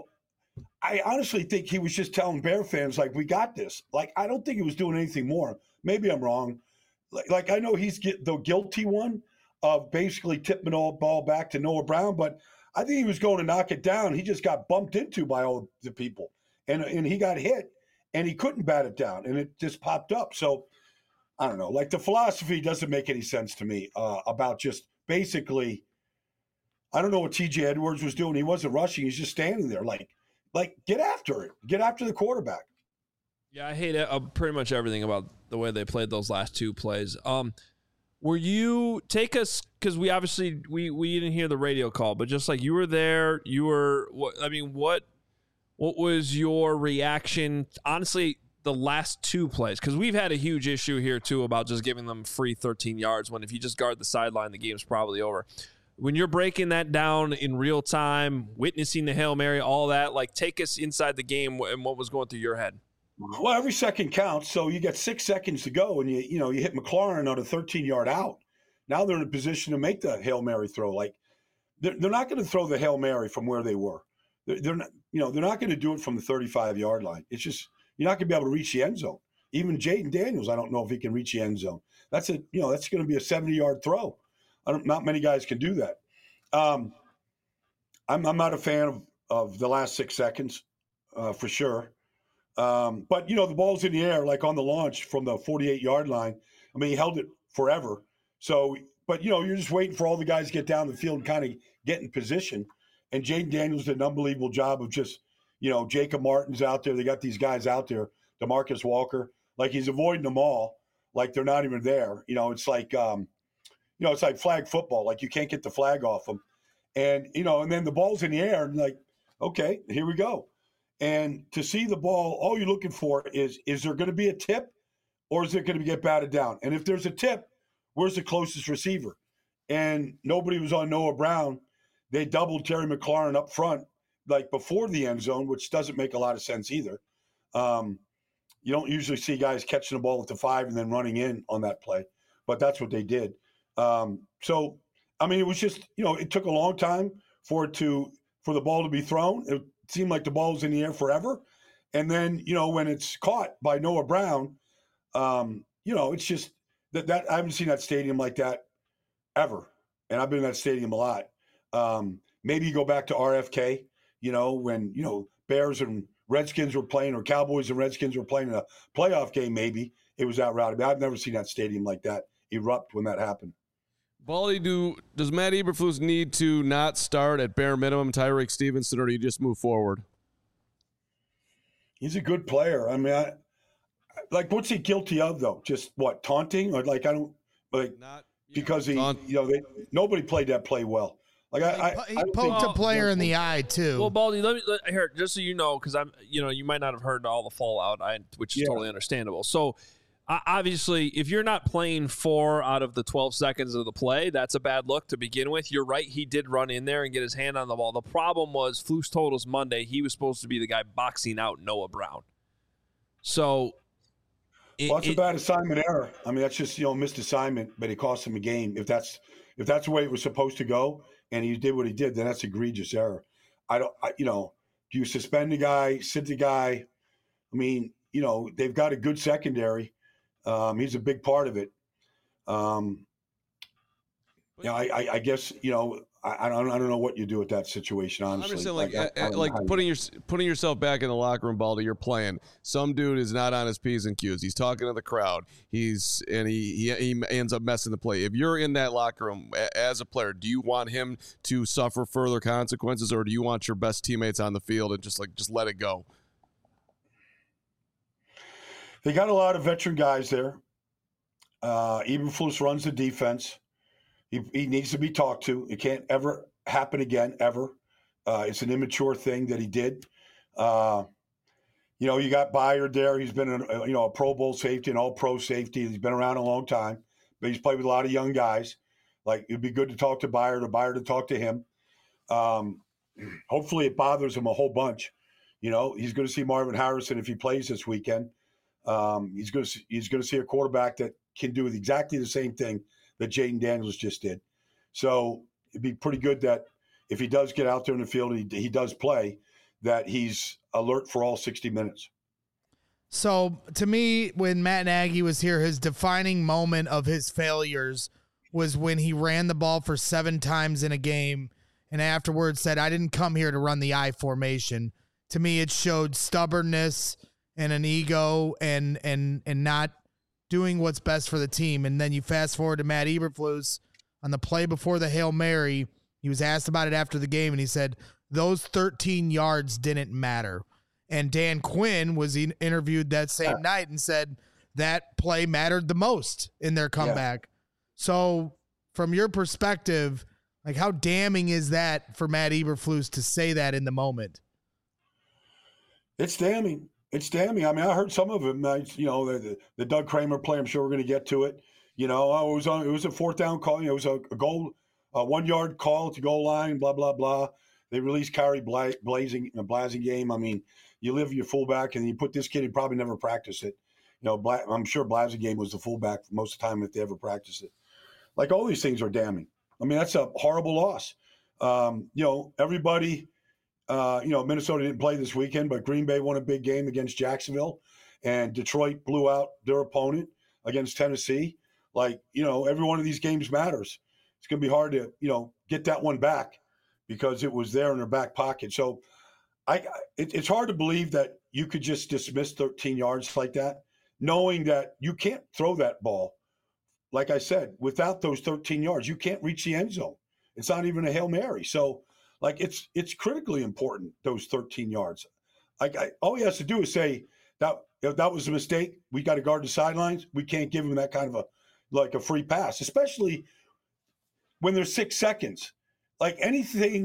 I honestly think he was just telling Bear fans, like, we got this. Like, I don't think he was doing anything more. Maybe I'm wrong. Like I know he's the guilty one of basically tipping the ball back to Noah Brown, but I think he was going to knock it down. He just got bumped into by all the people, and he got hit. and he couldn't bat it down, and it just popped up. So I don't know. Like, the philosophy doesn't make any sense to me about just basically, I don't know what T.J. Edwards was doing. He wasn't rushing. He's just standing there. Like get after it. Get after the quarterback. Yeah, I hate pretty much everything about the way they played those last two plays. Were you take us, because we obviously we didn't hear the radio call, but just like you were there, what was your reaction? Honestly, the last two plays, because we've had a huge issue here too about just giving them free 13 yards when if you just guard the sideline, the game's probably over. When you're breaking that down in real time, witnessing the Hail Mary, all that, like, take us inside the game and what was going through your head. Well, every second counts. So you got 6 seconds to go, and you hit McLaurin on a 13-yard out. Now they're in a position to make the Hail Mary throw. Like, they're not going to throw the Hail Mary from where they were. They're not, they're not going to do it from the 35-yard line. It's just, you're not going to be able to reach the end zone. Even Jaden Daniels, I don't know if he can reach the end zone. That's going to be a 70-yard throw. Not many guys can do that. I'm not a fan of the last 6 seconds, for sure. But the ball's in the air, like on the launch from the 48-yard line. I mean, he held it forever. So, but you're just waiting for all the guys to get down the field and kind of get in position. And Jaden Daniels did an unbelievable job of just, Jacob Martin's out there. They got these guys out there, DeMarcus Walker, like he's avoiding them all, like they're not even there. It's like, it's like flag football. Like, you can't get the flag off them. And, and then the ball's in the air and like, okay, here we go. And to see the ball, all you're looking for is there going to be a tip or is it going to get batted down? And if there's a tip, where's the closest receiver? And nobody was on Noah Brown. They doubled Terry McLaurin up front, like before the end zone, which doesn't make a lot of sense either. You don't usually see guys catching the ball at the 5 and then running in on that play, but that's what they did. So, I mean, it was just, it took a long time for the ball to be thrown. It seemed like the ball was in the air forever. And then, when it's caught by Noah Brown, it's just that I haven't seen that stadium like that ever. And I've been in that stadium a lot. Maybe you go back to RFK, when, Bears and Redskins were playing, or Cowboys and Redskins were playing in a playoff game, maybe it was that rowdy. I've never seen that stadium like that erupt when that happened. Baldy, does Matt Eberflus need to not start at bare minimum Tyreek Stevenson, or do you just move forward? He's a good player. I mean, what's he guilty of though? Just what, taunting, or because nobody played that play well. He poked a player in the eye too. Well, Baldy, let me here, just so you know, because you might not have heard all the fallout, which is totally understandable. So, obviously, if you're not playing 4 out of the 12 seconds of the play, that's a bad look to begin with. You're right; he did run in there and get his hand on the ball. The problem was, Flus told us Monday he was supposed to be the guy boxing out Noah Brown. So, it's a bad assignment error. I mean, that's just missed assignment, but it cost him a game. If that's the way it was supposed to go, and he did what he did, then that's egregious error. Do you suspend the guy, sit the guy? I mean, they've got a good secondary. He's a big part of it. I guess I don't know what you do with that situation. Honestly, I'm just saying, putting yourself back in the locker room, Baldy. You're playing. Some dude is not on his P's and Q's. He's talking to the crowd. He ends up messing the play. If you're in that locker room as a player, do you want him to suffer further consequences, or do you want your best teammates on the field and just let it go? They got a lot of veteran guys there. Eberflus runs the defense. He needs to be talked to. It can't ever happen again, ever. It's an immature thing that he did. You got Byard there. He's been a Pro Bowl safety, an All-Pro safety. He's been around a long time, but he's played with a lot of young guys. Like, it'd be good to talk to Byard, or Byard to talk to him. Hopefully it bothers him a whole bunch. He's going to see Marvin Harrison if he plays this weekend. He's going to see a quarterback that can do exactly the same thing that Jaden Daniels just did. So it'd be pretty good that if he does get out there in the field and he does play, that he's alert for all 60 minutes. So to me, when Matt Nagy was here, his defining moment of his failures was when he ran the ball for 7 times in a game and afterwards said, "I didn't come here to run the I formation." To me, it showed stubbornness and an ego and not doing what's best for the team. And then you fast forward to Matt Eberflus on the play before the Hail Mary. He was asked about it after the game, and he said those 13 yards didn't matter. And Dan Quinn was interviewed that same night and said that play mattered the most in their comeback. Yeah. So from your perspective, like, how damning is that for Matt Eberflus to say that in the moment? It's damning. It's damning. I mean, I heard some of them. The Doug Kramer play. I'm sure we're going to get to it. It was a 4th down call. It was a goal, 1 yard call to goal line. Blah blah blah. They released Kyrie Blasingame. I mean, you live your fullback, and you put this kid. He probably never practiced it. I'm sure Blasingame was the fullback most of the time if they ever practiced it. Like, all these things are damning. I mean, that's a horrible loss. Everybody. Minnesota didn't play this weekend, but Green Bay won a big game against Jacksonville, and Detroit blew out their opponent against Tennessee. Like, every one of these games matters. It's going to be hard to, get that one back because it was there in their back pocket. So it's hard to believe that you could just dismiss 13 yards like that, knowing that you can't throw that ball. Like I said, without those 13 yards, you can't reach the end zone. It's not even a Hail Mary. So, like, it's critically important, those 13 yards. All he has to do is say that was a mistake. We got to guard the sidelines. We can't give him that kind of a free pass, especially when there's 6 seconds. Like, any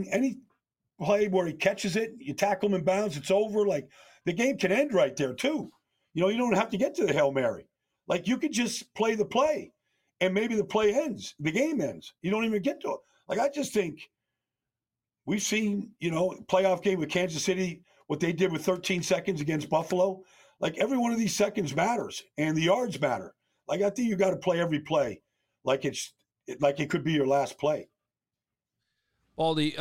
play where he catches it, you tackle him in bounds, it's over. Like, the game can end right there too. You don't have to get to the Hail Mary. Like, you could just play the play, and maybe the play ends. The game ends. You don't even get to it. Like, I just think we've seen, playoff game with Kansas City, what they did with 13 seconds against Buffalo. Like, every one of these seconds matters, and the yards matter. Like, I think you got to play every play like it could be your last play. Baldy,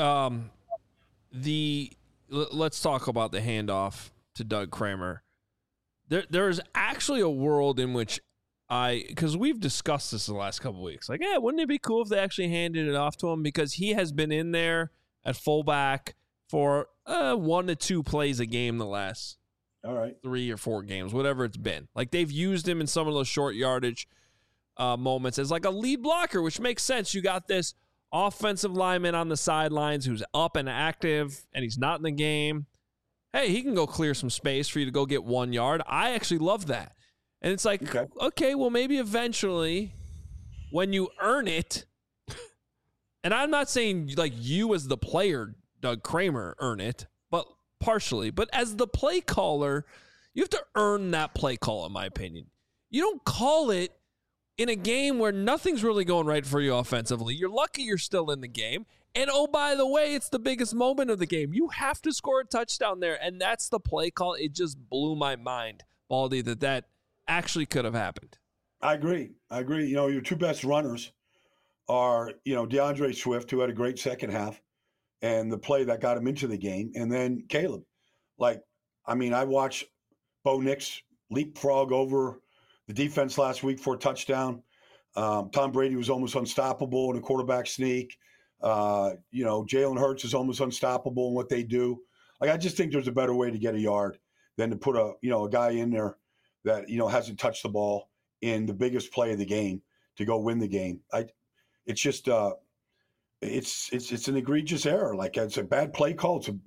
let's talk about the handoff to Doug Kramer. There's actually a world in which because we've discussed this the last couple of weeks. Like, wouldn't it be cool if they actually handed it off to him? Because he has been in there at fullback for 1 to 2 plays a game the last 3 or 4 games, whatever it's been. Like, they've used him in some of those short yardage moments as like a lead blocker, which makes sense. You got this offensive lineman on the sidelines who's up and active, and he's not in the game. Hey, he can go clear some space for you to go get 1 yard. I actually love that. And it's like, okay, well, maybe eventually when you earn it, and I'm not saying like you as the player, Doug Kramer, earn it, but partially. But as the play caller, you have to earn that play call, in my opinion. You don't call it in a game where nothing's really going right for you offensively. You're lucky you're still in the game. And, oh, by the way, it's the biggest moment of the game. You have to score a touchdown there, and that's the play call. It just blew my mind, Baldy, that actually could have happened. I agree. Your 2 best runners are, DeAndre Swift, who had a great second half, and the play that got him into the game, and then Caleb. Like, I mean, I watched Bo Nix leapfrog over the defense last week for a touchdown. Tom Brady was almost unstoppable in a quarterback sneak. Jalen Hurts is almost unstoppable in what they do. Like, I just think there's a better way to get a yard than to put a guy in there that, hasn't touched the ball in the biggest play of the game to go win the game. It's just it's an egregious error. Like, it's a bad play call. It's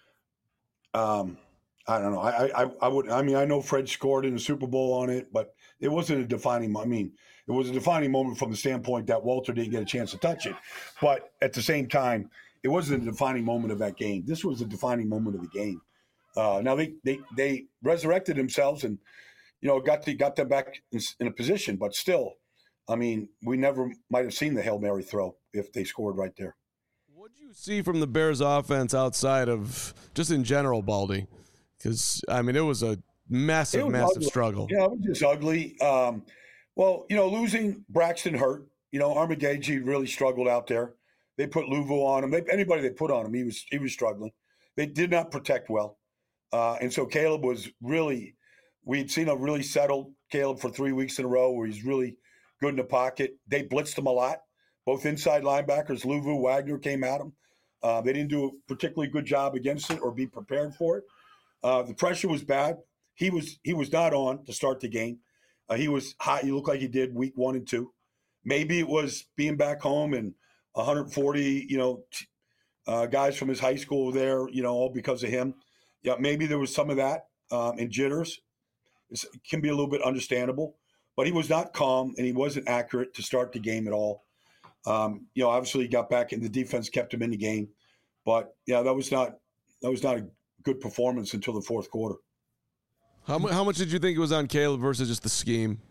I don't know. I know Fred scored in the Super Bowl on it, but it wasn't a defining. It was a defining moment from the standpoint that Walter didn't get a chance to touch it. But at the same time, it wasn't a defining moment of that game. This was a defining moment of the game. Now they resurrected themselves and got them back in a position, but still, we never might have seen the Hail Mary throw if they scored right there. What do you see from the Bears offense outside of just in general, Baldy? Because, it was a massive struggle. Yeah, it was just ugly. Losing Braxton hurt. Armagagi really struggled out there. They put Luvu on him. Anybody they put on him, he was struggling. They did not protect well. And so Caleb was really – we'd seen a really settled Caleb for 3 weeks in a row where he's really good in the pocket. They blitzed him a lot. Both inside linebackers, Luvu, Wagner, came at him. They didn't do a particularly good job against it or be prepared for it. The pressure was bad. he was not on to start the game. He was hot. He looked like he did week 1 and 2. Maybe it was being back home and 140, guys from his high school there, all because of him. Yeah, maybe there was some of that and jitters. It can be a little bit understandable, but he was not calm and he wasn't accurate to start the game at all. Obviously he got back and the defense kept him in the game, but yeah, that was not a good performance until the fourth quarter. How much did you think it was on Caleb versus just the scheme?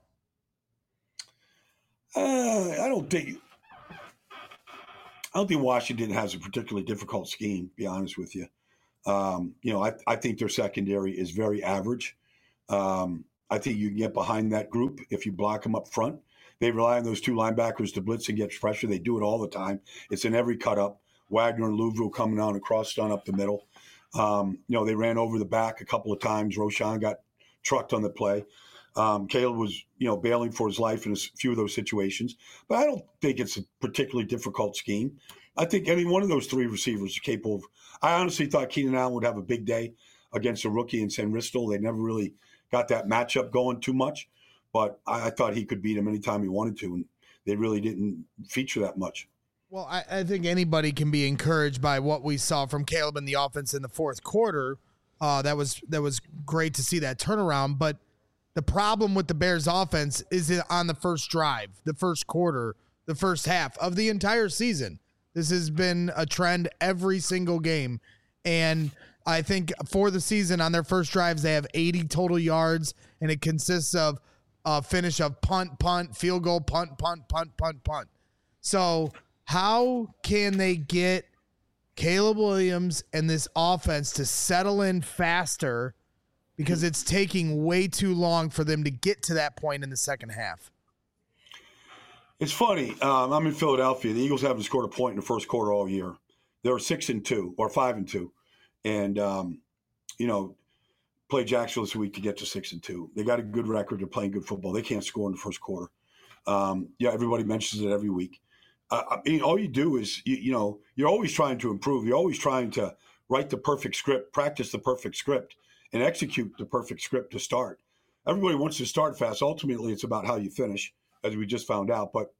I don't think Washington has a particularly difficult scheme, to be honest with you. I think their secondary is very average. I think you can get behind that group if you block them up front. They rely on those 2 linebackers to blitz and get pressure. They do it all the time. It's in every cut-up. Wagner and Louisville coming on across, stun up the middle. They ran over the back a couple of times. Roschon got trucked on the play. Caleb was, bailing for his life in a few of those situations. But I don't think it's a particularly difficult scheme. I think any one of those 3 receivers is capable of – I honestly thought Keenan Allen would have a big day against a rookie in San Ristel. They never really got that matchup going too much. But I thought he could beat him anytime he wanted to, and they really didn't feature that much. Well, I think anybody can be encouraged by what we saw from Caleb in the offense in the fourth quarter. That was great to see that turnaround. But the problem with the Bears offense is on the first drive, the first quarter, the first half of the entire season. This has been a trend every single game. And I think for the season on their first drives, they have 80 total yards, and it consists of a finish of punt, field goal, punt. So how can they get Caleb Williams and this offense to settle in faster, because it's taking way too long for them to get to that point in the second half? It's funny. I'm in Philadelphia. The Eagles haven't scored a point in the first quarter all year. They were 6-2 or 5-2, and play Jacksonville this week to get to 6-2. They got a good record. They're playing good football. They can't score in the first quarter. Everybody mentions it every week. All you do is you're always trying to improve. You're always trying to write the perfect script, practice the perfect script, and execute the perfect script to start. Everybody wants to start fast. Ultimately, it's about how you finish, as we just found out. But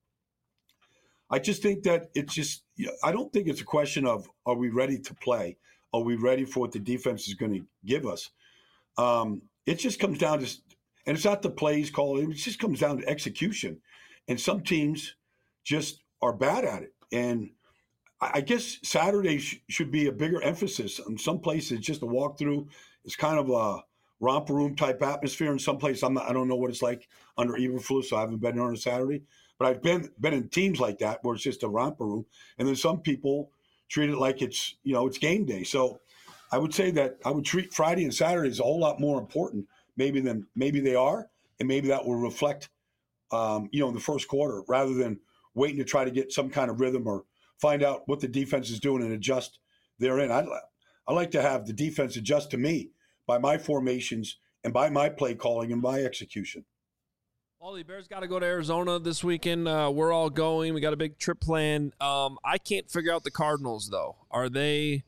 I just think that I don't think it's a question of, are we ready to play? Are we ready for what the defense is going to give us? It just comes down to, and it's not the plays called, it just comes down to execution. And some teams just are bad at it. And I guess Saturday should be a bigger emphasis. In some places, just a walkthrough. It's kind of a romper room type atmosphere. In some places, I don't know what it's like under Eberflus, so I haven't been there on a Saturday. But I've been in teams like that where it's just a romper room. And then some people treat it like it's game day. So I would say that I would treat Friday and Saturday as a whole lot more important maybe they are, and maybe that will reflect, in the first quarter rather than waiting to try to get some kind of rhythm or find out what the defense is doing and adjust therein. I like to have the defense adjust to me by my formations and by my play calling and my execution. Paulie, Bears got to go to Arizona this weekend. We're all going. We got a big trip planned. I can't figure out the Cardinals, though. Are they,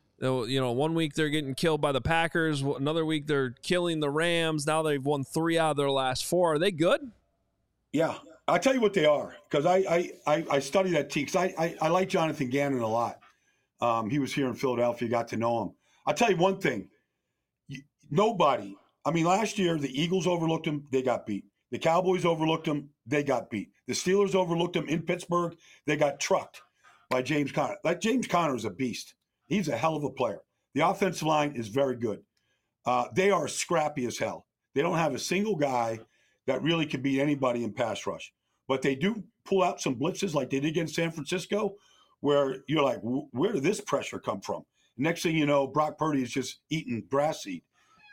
1 week they're getting killed by the Packers. Another week they're killing the Rams. Now they've won 3 out of their last 4. Are they good? Yeah. I'll tell you what they are, because I study that team. Because I like Jonathan Gannon a lot. He was here in Philadelphia, got to know him. I'll tell you one thing. Nobody, last year the Eagles overlooked them, they got beat. The Cowboys overlooked them, they got beat. The Steelers overlooked them in Pittsburgh, they got trucked by James Conner. James Conner is a beast. He's a hell of a player. The offensive line is very good. They are scrappy as hell. They don't have a single guy that really can beat anybody in pass rush. But they do pull out some blitzes like they did against San Francisco, where you're like, where did this pressure come from? Next thing you know, Brock Purdy is just eating grass seed.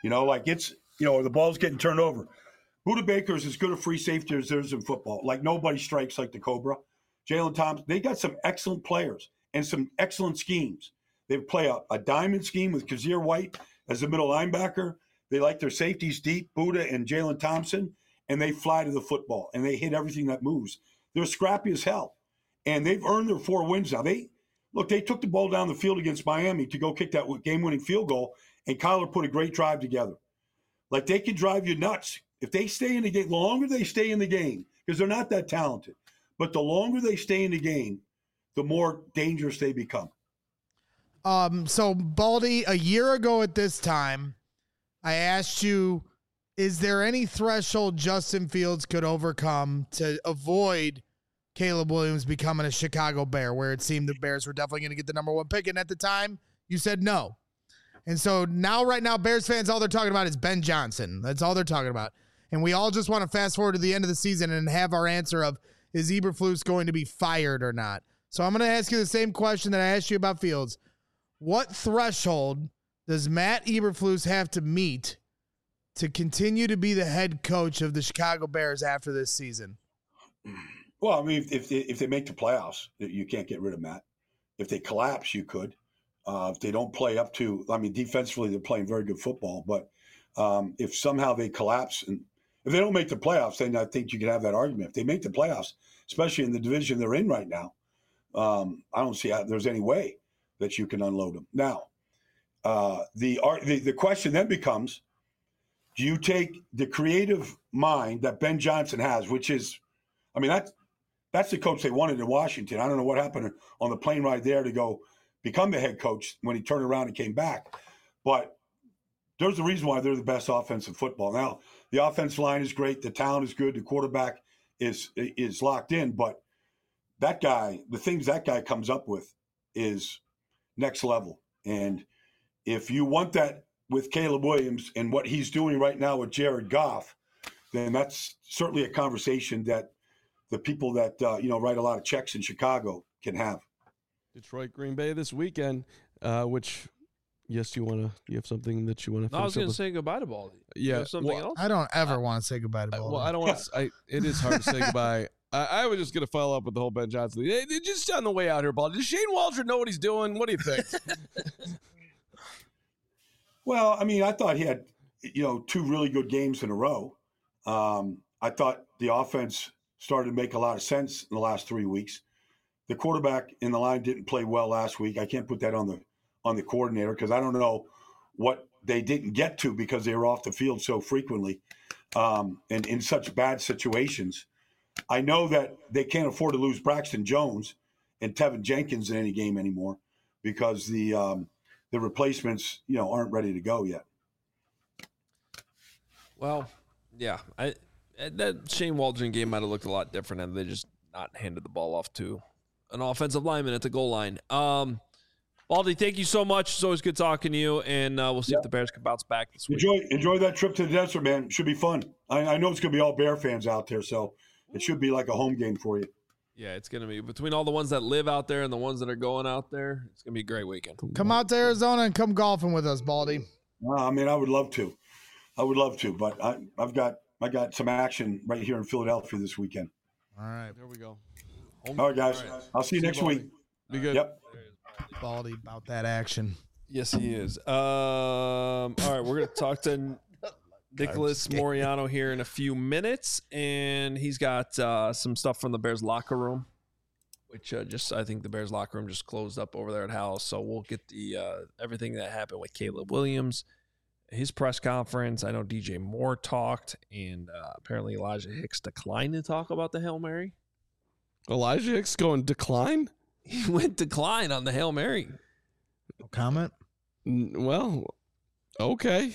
The ball's getting turned over. Budda Baker is as good a free safety as there is in football. Like, nobody strikes like the Cobra. Jalen Thompson, they got some excellent players and some excellent schemes. They play a diamond scheme with Kazir White as the middle linebacker. They like their safeties deep, Budda and Jalen Thompson, and they fly to the football, and they hit everything that moves. They're scrappy as hell, and they've earned their 4 wins now. They took the ball down the field against Miami to go kick that game-winning field goal, and Kyler put a great drive together. Like, they could drive you nuts. If they stay in the game, the longer they stay in the game, because they're not that talented, but the longer they stay in the game, the more dangerous they become. So, Baldy, a year ago at this time, I asked you, is there any threshold Justin Fields could overcome to avoid Caleb Williams becoming a Chicago Bear, where it seemed the Bears were definitely going to get the number 1 pick? And at the time, you said no. And so now, right now, Bears fans, all they're talking about is Ben Johnson. That's all they're talking about. And we all just want to fast forward to the end of the season and have our answer of, is Eberflus going to be fired or not? So I'm going to ask you the same question that I asked you about Fields. What threshold does Matt Eberflus have to meet to continue to be the head coach of the Chicago Bears after this season? Well, I mean, if they make the playoffs, you can't get rid of Matt. If they collapse, you could. If they don't play up to, I mean, defensively, they're playing very good football. But if somehow they collapse, and if they don't make the playoffs, then I think you could have that argument. If they make the playoffs, especially in the division they're in right now, I don't see how there's any way that you can unload them. Now, the question then becomes, do you take the creative mind that Ben Johnson has, which is, I mean, that's the coach they wanted in Washington. I don't know what happened on the plane ride there to go become the head coach when he turned around and came back. But there's a reason why they're the best offensive football. Now, the offensive line is great. The talent is good. The quarterback is locked in. But that guy, the things that guy comes up with is next level. And if you want that with Caleb Williams and what he's doing right now with Jared Goff, then that's certainly a conversation that the people that write a lot of checks in Chicago can have. Detroit, Green Bay this weekend, which, yes, you have something that you want to. No, I was going to say goodbye to Baldy. Yeah, something else. I don't ever want to say goodbye to Baldy. Well, I don't want to. It is hard to say goodbye. I was just going to follow up with the whole Ben Johnson thing. Hey, just on the way out here, Baldy. Does Shane Waldron know what he's doing? What do you think? Well, I mean, I thought he had, 2 really good games in a row. I thought the offense started to make a lot of sense in the last 3 weeks. The quarterback in the line didn't play well last week. I can't put that on the coordinator because I don't know what they didn't get to because they were off the field so frequently and in such bad situations. I know that they can't afford to lose Braxton Jones and Tevin Jenkins in any game anymore because the replacements, aren't ready to go yet. Well, yeah, that Shane Waldron game might have looked a lot different had they just not handed the ball off to an offensive lineman at the goal line. Baldy, thank you so much. It's always good talking to you, and we'll see if the Bears can bounce back this week. Enjoy that trip to the desert, man. It should be fun. I know it's going to be all Bear fans out there, so it should be like a home game for you. Yeah, it's going to be between all the ones that live out there and the ones that are going out there. It's going to be a great weekend. Come out to Arizona and come golfing with us, Baldy. I mean, I would love to. But I got some action right here in Philadelphia this weekend. All right. There we go. All right, guys. I'll see you next week. Be good. Yep. Baldy about that action. Yes, he is. All right, we're going to talk to Nicholas Moreano here in a few minutes, and he's got some stuff from the Bears locker room, which I think the Bears locker room just closed up over there at House. So we'll get the everything that happened with Caleb Williams, his press conference. I know DJ Moore talked, and apparently Elijah Hicks declined to talk about the Hail Mary. Elijah Hicks going decline? He went decline on the Hail Mary. No comment? Well, okay.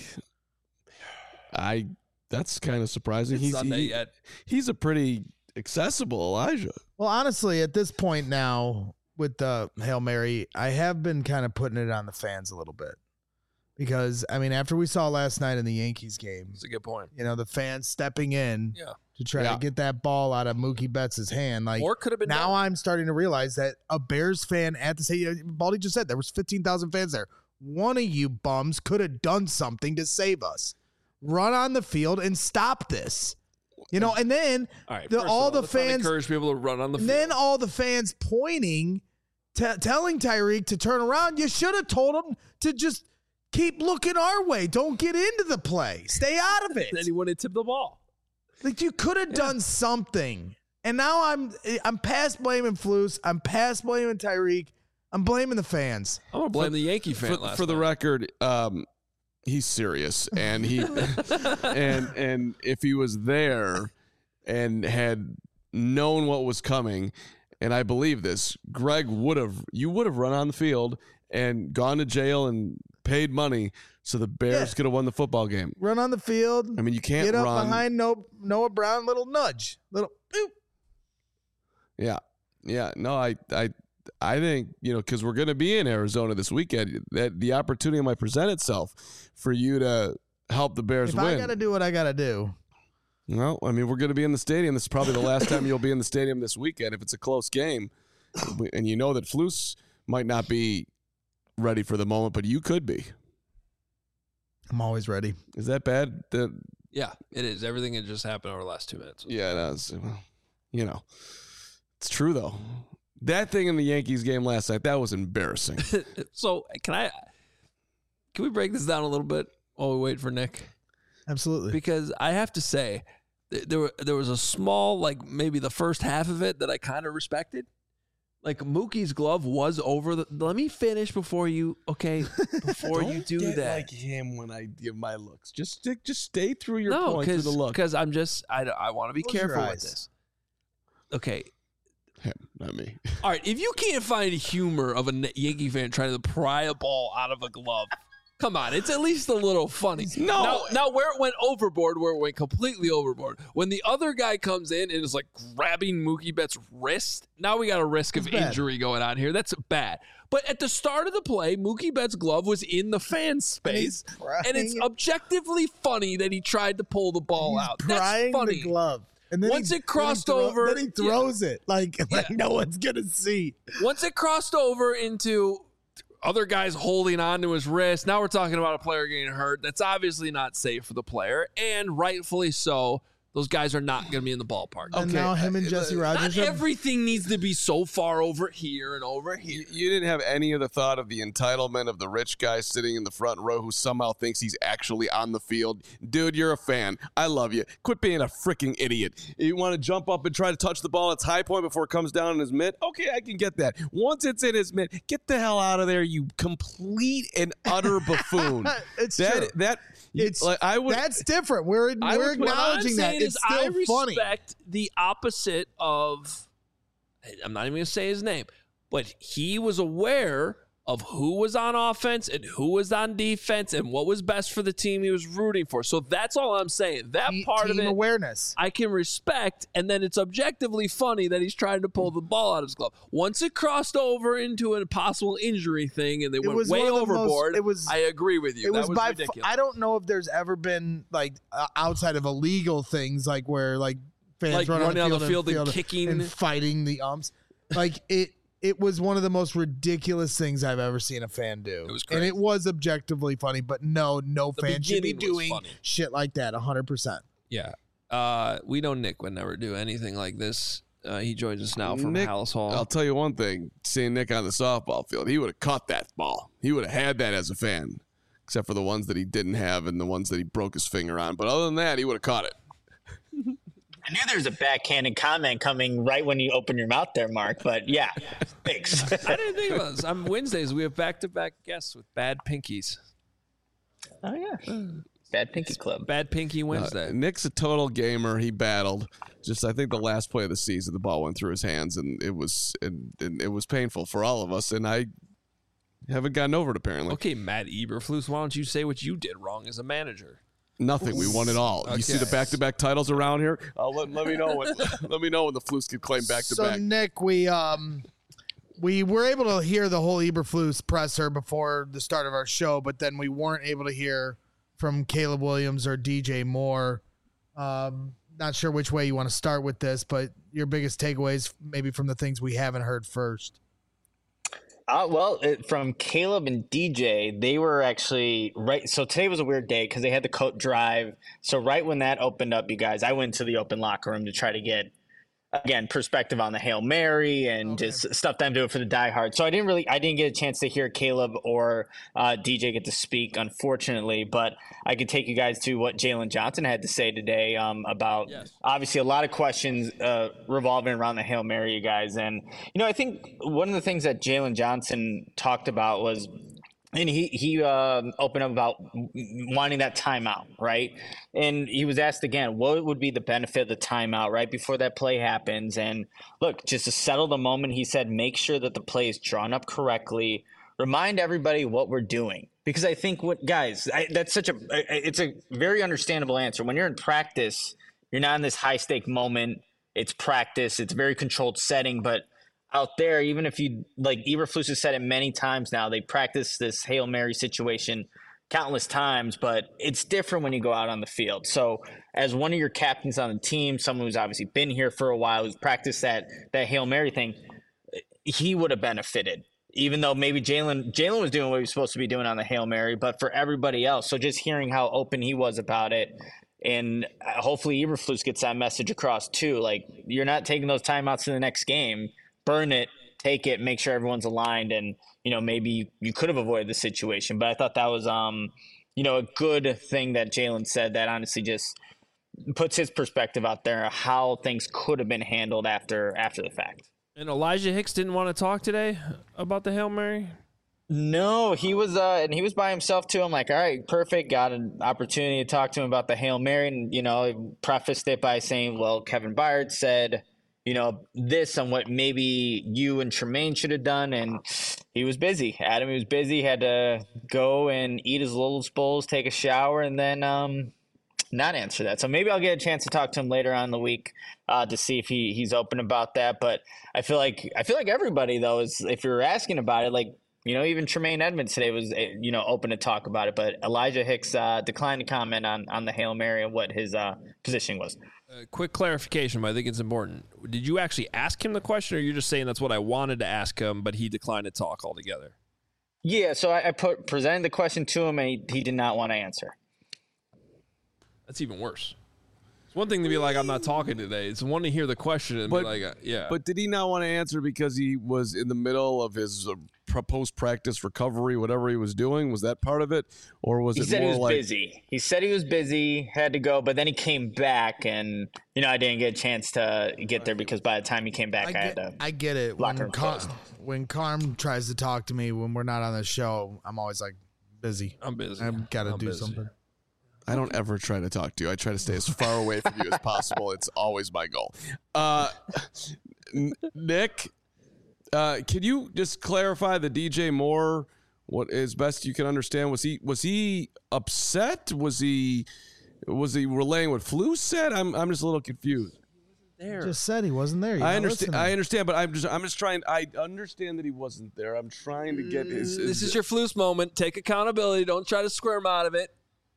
That's kind of surprising. He's a pretty accessible Elijah. Well, honestly, at this point now with the Hail Mary, I have been kind of putting it on the fans a little bit. Because, I mean, after we saw last night in the Yankees game. That's a good point. The fans stepping in to try to get that ball out of Mookie Betts' hand. Or could have been now done. I'm starting to realize that a Bears fan at the stadium, Baldy just said there was 15,000 fans there. One of you bums could have done something to save us. Run on the field and stop this. And then all right, all the fans encourage people to run on the field. Then all the fans pointing, telling Tyreek to turn around. You should have told him to just keep looking our way. Don't get into the play. Stay out of it. Then he wouldn't tip the ball. Like you could have done something. And now I'm past blaming Flus. I'm past blaming Tyreek. I'm blaming the fans. I'm gonna blame the Yankee fan. For the record, he's serious, and he and if he was there and had known what was coming, and I believe this, Greg would have run on the field and gone to jail and paid money so the Bears could have won the football game. Run on the field. I mean, you can't get up run behind Noah Brown, little nudge, little boop. Yeah. No, I think, because we're going to be in Arizona this weekend, that the opportunity might present itself for you to help the Bears if win. I got to do what I got to do. Well, I mean, we're going to be in the stadium. This is probably the last time you'll be in the stadium this weekend if it's a close game. And you know that Flus might not be ready for the moment, but you could be. I'm always ready. Is that bad? Yeah, it is. Everything that just happened over the last 2 minutes. Yeah, it is. It's true, though. That thing in the Yankees game last night, that was embarrassing. So can we break this down a little bit while we wait for Nick? Absolutely. Because I have to say, there was a small, like maybe the first half of it that I kind of respected. Like Mookie's glove was over let me finish before you do that. Like him when I give my looks. Just stay through your point through the look. Because I want to be careful with this. Okay. Him, not me. All right, if you can't find humor of a Yankee fan trying to pry a ball out of a glove, come on, it's at least a little funny. No. Now where it went overboard, where it went completely overboard, when the other guy comes in and is like grabbing Mookie Betts' wrist, now we got a risk of injury going on here. That's bad. But at the start of the play, Mookie Betts' glove was in the fan space, and it's objectively funny that he tried to pull the ball out. That's funny. The glove. And then once it crossed over, then he throws it like no one's gonna see. Once it crossed over into other guys holding on to his wrist, now we're talking about a player getting hurt. That's obviously not safe for the player, and rightfully so. Those guys are not going to be in the ballpark. And now him and Jesse Rogers. Not everything needs to be so far over here and over here. You didn't have any of the thought of the entitlement of the rich guy sitting in the front row who somehow thinks he's actually on the field. Dude, you're a fan. I love you. Quit being a freaking idiot. You want to jump up and try to touch the ball at its high point before it comes down in his mitt? Okay, I can get that. Once it's in his mitt, get the hell out of there, you complete and utter buffoon. It's true. That's different. We're acknowledging that. It's still I funny. respect the opposite of. I'm not even going to say his name, but he was aware of who was on offense and who was on defense and what was best for the team he was rooting for. So that's all I'm saying. That part of it, awareness, I can respect. And then it's objectively funny that he's trying to pull the ball out of his glove. Once it crossed over into a possible injury thing and they went way overboard, I agree with you. That was ridiculous. I don't know if there's ever been like outside of illegal things like where like fans run on the field and kicking and fighting the umps. Like it was one of the most ridiculous things I've ever seen a fan do. It was crazy. And it was objectively funny, but no fan should be doing shit like that 100%. Yeah. We know Nick would never do anything like this. He joins us now from Hallis Hall. I'll tell you one thing. Seeing Nick on the softball field, he would have caught that ball. He would have had that as a fan, except for the ones that he didn't have and the ones that he broke his finger on. But other than that, he would have caught it. I knew there was a backhanded comment coming right when you open your mouth there, Mark, but yeah, thanks. I didn't think about this. On Wednesdays, we have back-to-back guests with Bad Pinkies. Oh, yeah. Bad Pinky Club. Bad Pinky Wednesday. Nick's a total gamer. He battled. Just, I think the last play of the season, the ball went through his hands, and it was painful for all of us, and I haven't gotten over it, apparently. Okay, Matt Eberflus, why don't you say what you did wrong as a manager? Nothing. We won it all. Okay. You see the back-to-back titles around here? Let me know when the Flus can claim back-to-back. So Nick, we were able to hear the whole Eberflus presser before the start of our show, but then we weren't able to hear from Caleb Williams or DJ Moore. Not sure which way you want to start with this, but your biggest takeaways maybe from the things we haven't heard first. From Caleb and DJ, they were actually right. So today was a weird day because they had the coat drive. So right when that opened up, you guys, I went to the open locker room to try to get, again, perspective on the Hail Mary and just stuff that I'm doing for the diehard. So I didn't get a chance to hear Caleb or DJ get to speak, unfortunately, but I could take you guys to what Jalen Johnson had to say today about obviously a lot of questions revolving around the Hail Mary, you guys. And, I think one of the things that Jalen Johnson talked about was and he opened up about wanting that timeout, right? And he was asked again, what would be the benefit of the timeout right before that play happens? And look, just to settle the moment, he said, make sure that the play is drawn up correctly. Remind everybody what we're doing. Because I think it's a very understandable answer. When you're in practice, you're not in this high stake moment. It's practice. It's a very controlled setting, but out there, even if you like Eberflus has said it many times now, they practice this Hail Mary situation countless times, but it's different when you go out on the field. So as one of your captains on the team, someone who's obviously been here for a while, who's practiced that Hail Mary thing, he would have benefited, even though maybe Jalen was doing what he was supposed to be doing on the Hail Mary, but for everybody else. So just hearing how open he was about it, and hopefully Eberflus gets that message across too. Like, you're not taking those timeouts in the next game. Burn it, take it, make sure everyone's aligned, and maybe you could have avoided the situation. But I thought that was a good thing that Jalen said, that honestly just puts his perspective out there, how things could have been handled after the fact. And Elijah Hicks didn't want to talk today about the Hail Mary? No, he was and he was by himself too. I'm like, all right, perfect. Got an opportunity to talk to him about the Hail Mary, and prefaced it by saying, well, Kevin Byard said this on what maybe you and Tremaine should have done. And he was busy. He was busy, had to go and eat his Lola's bowls, take a shower, and then not answer that. So maybe I'll get a chance to talk to him later on in the week to see if he's open about that. But I feel like everybody, though, is, if you're asking about it, like, even Tremaine Edmonds today was, open to talk about it. But Elijah Hicks declined to comment on the Hail Mary and what his positioning was. Quick clarification, but I think it's important. Did you actually ask him the question, or you're just saying that's what I wanted to ask him, but he declined to talk altogether? Yeah, so I presented the question to him, and he did not want to answer. That's even worse. It's one thing to be like, I'm not talking today. It's one to hear the question and be like, yeah. But did he not want to answer because he was in the middle of his post-practice recovery, whatever he was doing? Was that part of it? Or was it more like... busy. He said he was busy, had to go, but then he came back, and, I didn't get a chance to get there because by the time he came back, I get it. When Carm tries to talk to me when we're not on the show, I'm always like, busy. I'm busy. I've got to do something. I don't ever try to talk to you. I try to stay as far away from you as possible. It's always my goal. Nick, can you just clarify the DJ Moore? What is best you can understand? Was he upset? Was he relaying what Flu said? I'm just a little confused. There. He just said he wasn't there. I understand, but I'm just trying. I understand that he wasn't there. I'm trying to get his. This is your Flus moment. Take accountability. Don't try to squirm out of it.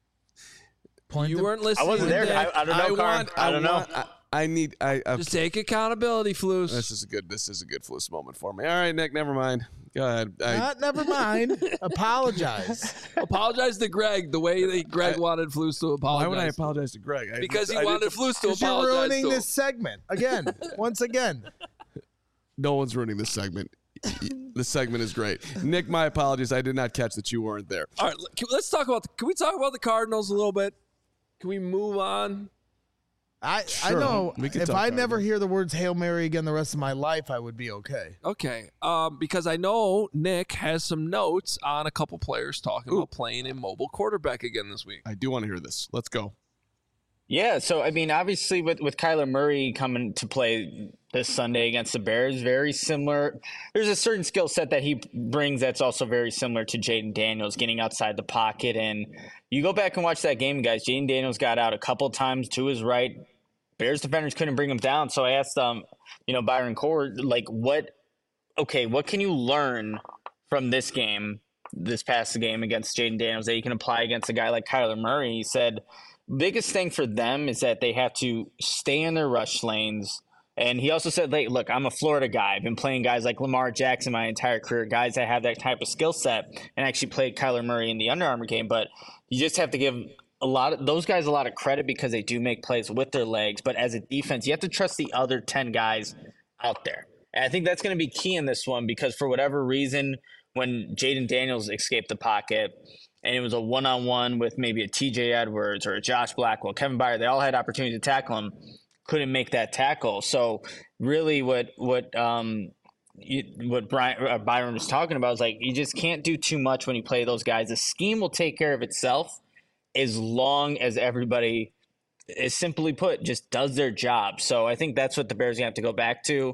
You weren't listening. I wasn't there. I don't know, Carm. I don't know. Okay. Just take accountability, Flus. This is a good Flus moment for me. All right, Nick, never mind. Go ahead. Never mind. Apologize. Apologize to Greg the way that Greg wanted Flus to apologize. Why would I apologize to Greg? Because he wanted Flus to apologize. You're ruining this segment. Once again. No one's ruining this segment. The segment is great. Nick, my apologies. I did not catch that you weren't there. All right, let's talk about can we talk about the Cardinals a little bit? Can we move on? I know if I never hear the words Hail Mary again the rest of my life, I would be okay. Okay. Because I know Nick has some notes on a couple players talking about playing a mobile quarterback again this week. I do want to hear this. Let's go. Yeah, so I mean, obviously with Kyler Murray coming to play this Sunday against the Bears, very similar. There's a certain skill set that he brings that's also very similar to Jaden Daniels, getting outside the pocket. And you go back and watch that game, guys. Jaden Daniels got out a couple times to his right. Bears defenders couldn't bring him down. So I asked Byron Core, like, what can you learn from this game, this past game against Jaden Daniels that you can apply against a guy like Kyler Murray? He said, biggest thing for them is that they have to stay in their rush lanes. And he also said, like, look, I'm a Florida guy. I've been playing guys like Lamar Jackson my entire career, guys that have that type of skill set, and actually played Kyler Murray in the Under Armour game. But you just have to give those guys a lot of credit because they do make plays with their legs. But as a defense, you have to trust the other 10 guys out there. And I think that's going to be key in this one because for whatever reason, when Jaden Daniels escaped the pocket and it was a one-on-one with maybe a TJ Edwards or a Josh Blackwell, Kevin Byard, they all had opportunity to tackle him, couldn't make that tackle. So really what what Byron was talking about is like you just can't do too much when you play those guys. The scheme will take care of itself as long as everybody is, simply put, just does their job. So I think that's what the Bears have to go back to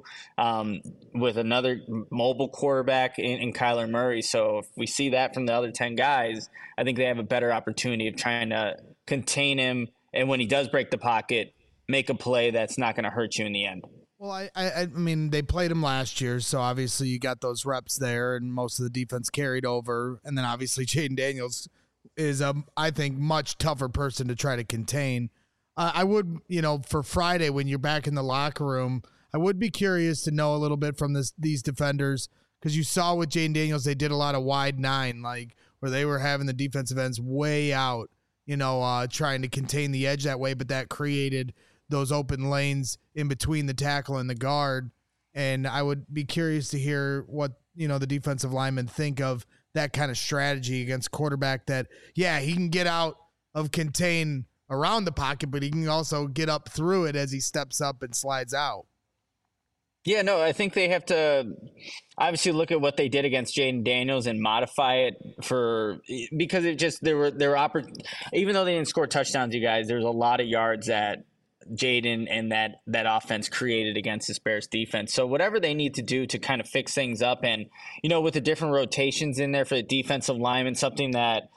with another mobile quarterback in Kyler Murray. So if we see that from the other 10 guys, I think they have a better opportunity of trying to contain him. And when he does break the pocket, make a play that's not going to hurt you in the end. Well, I mean, they played him last year, so obviously you got those reps there, and most of the defense carried over. And then obviously Jayden Daniels is, I think, much tougher person to try to contain. I would, for Friday when you're back in the locker room, I would be curious to know a little bit from these defenders, because you saw with Jayden Daniels, they did a lot of wide nine, like where they were having the defensive ends way out, trying to contain the edge that way, but that created those open lanes in between the tackle and the guard. And I would be curious to hear what, the defensive linemen think of that kind of strategy against quarterback that, yeah, he can get out of contain around the pocket, but he can also get up through it as he steps up and slides out. Yeah, no, I think they have to obviously look at what they did against Jayden Daniels and modify it because it just, there were even though they didn't score touchdowns, you guys, there's a lot of yards that Jayden and that offense created against this Bears defense. So whatever they need to do to kind of fix things up, and with the different rotations in there for the defensive linemen, something that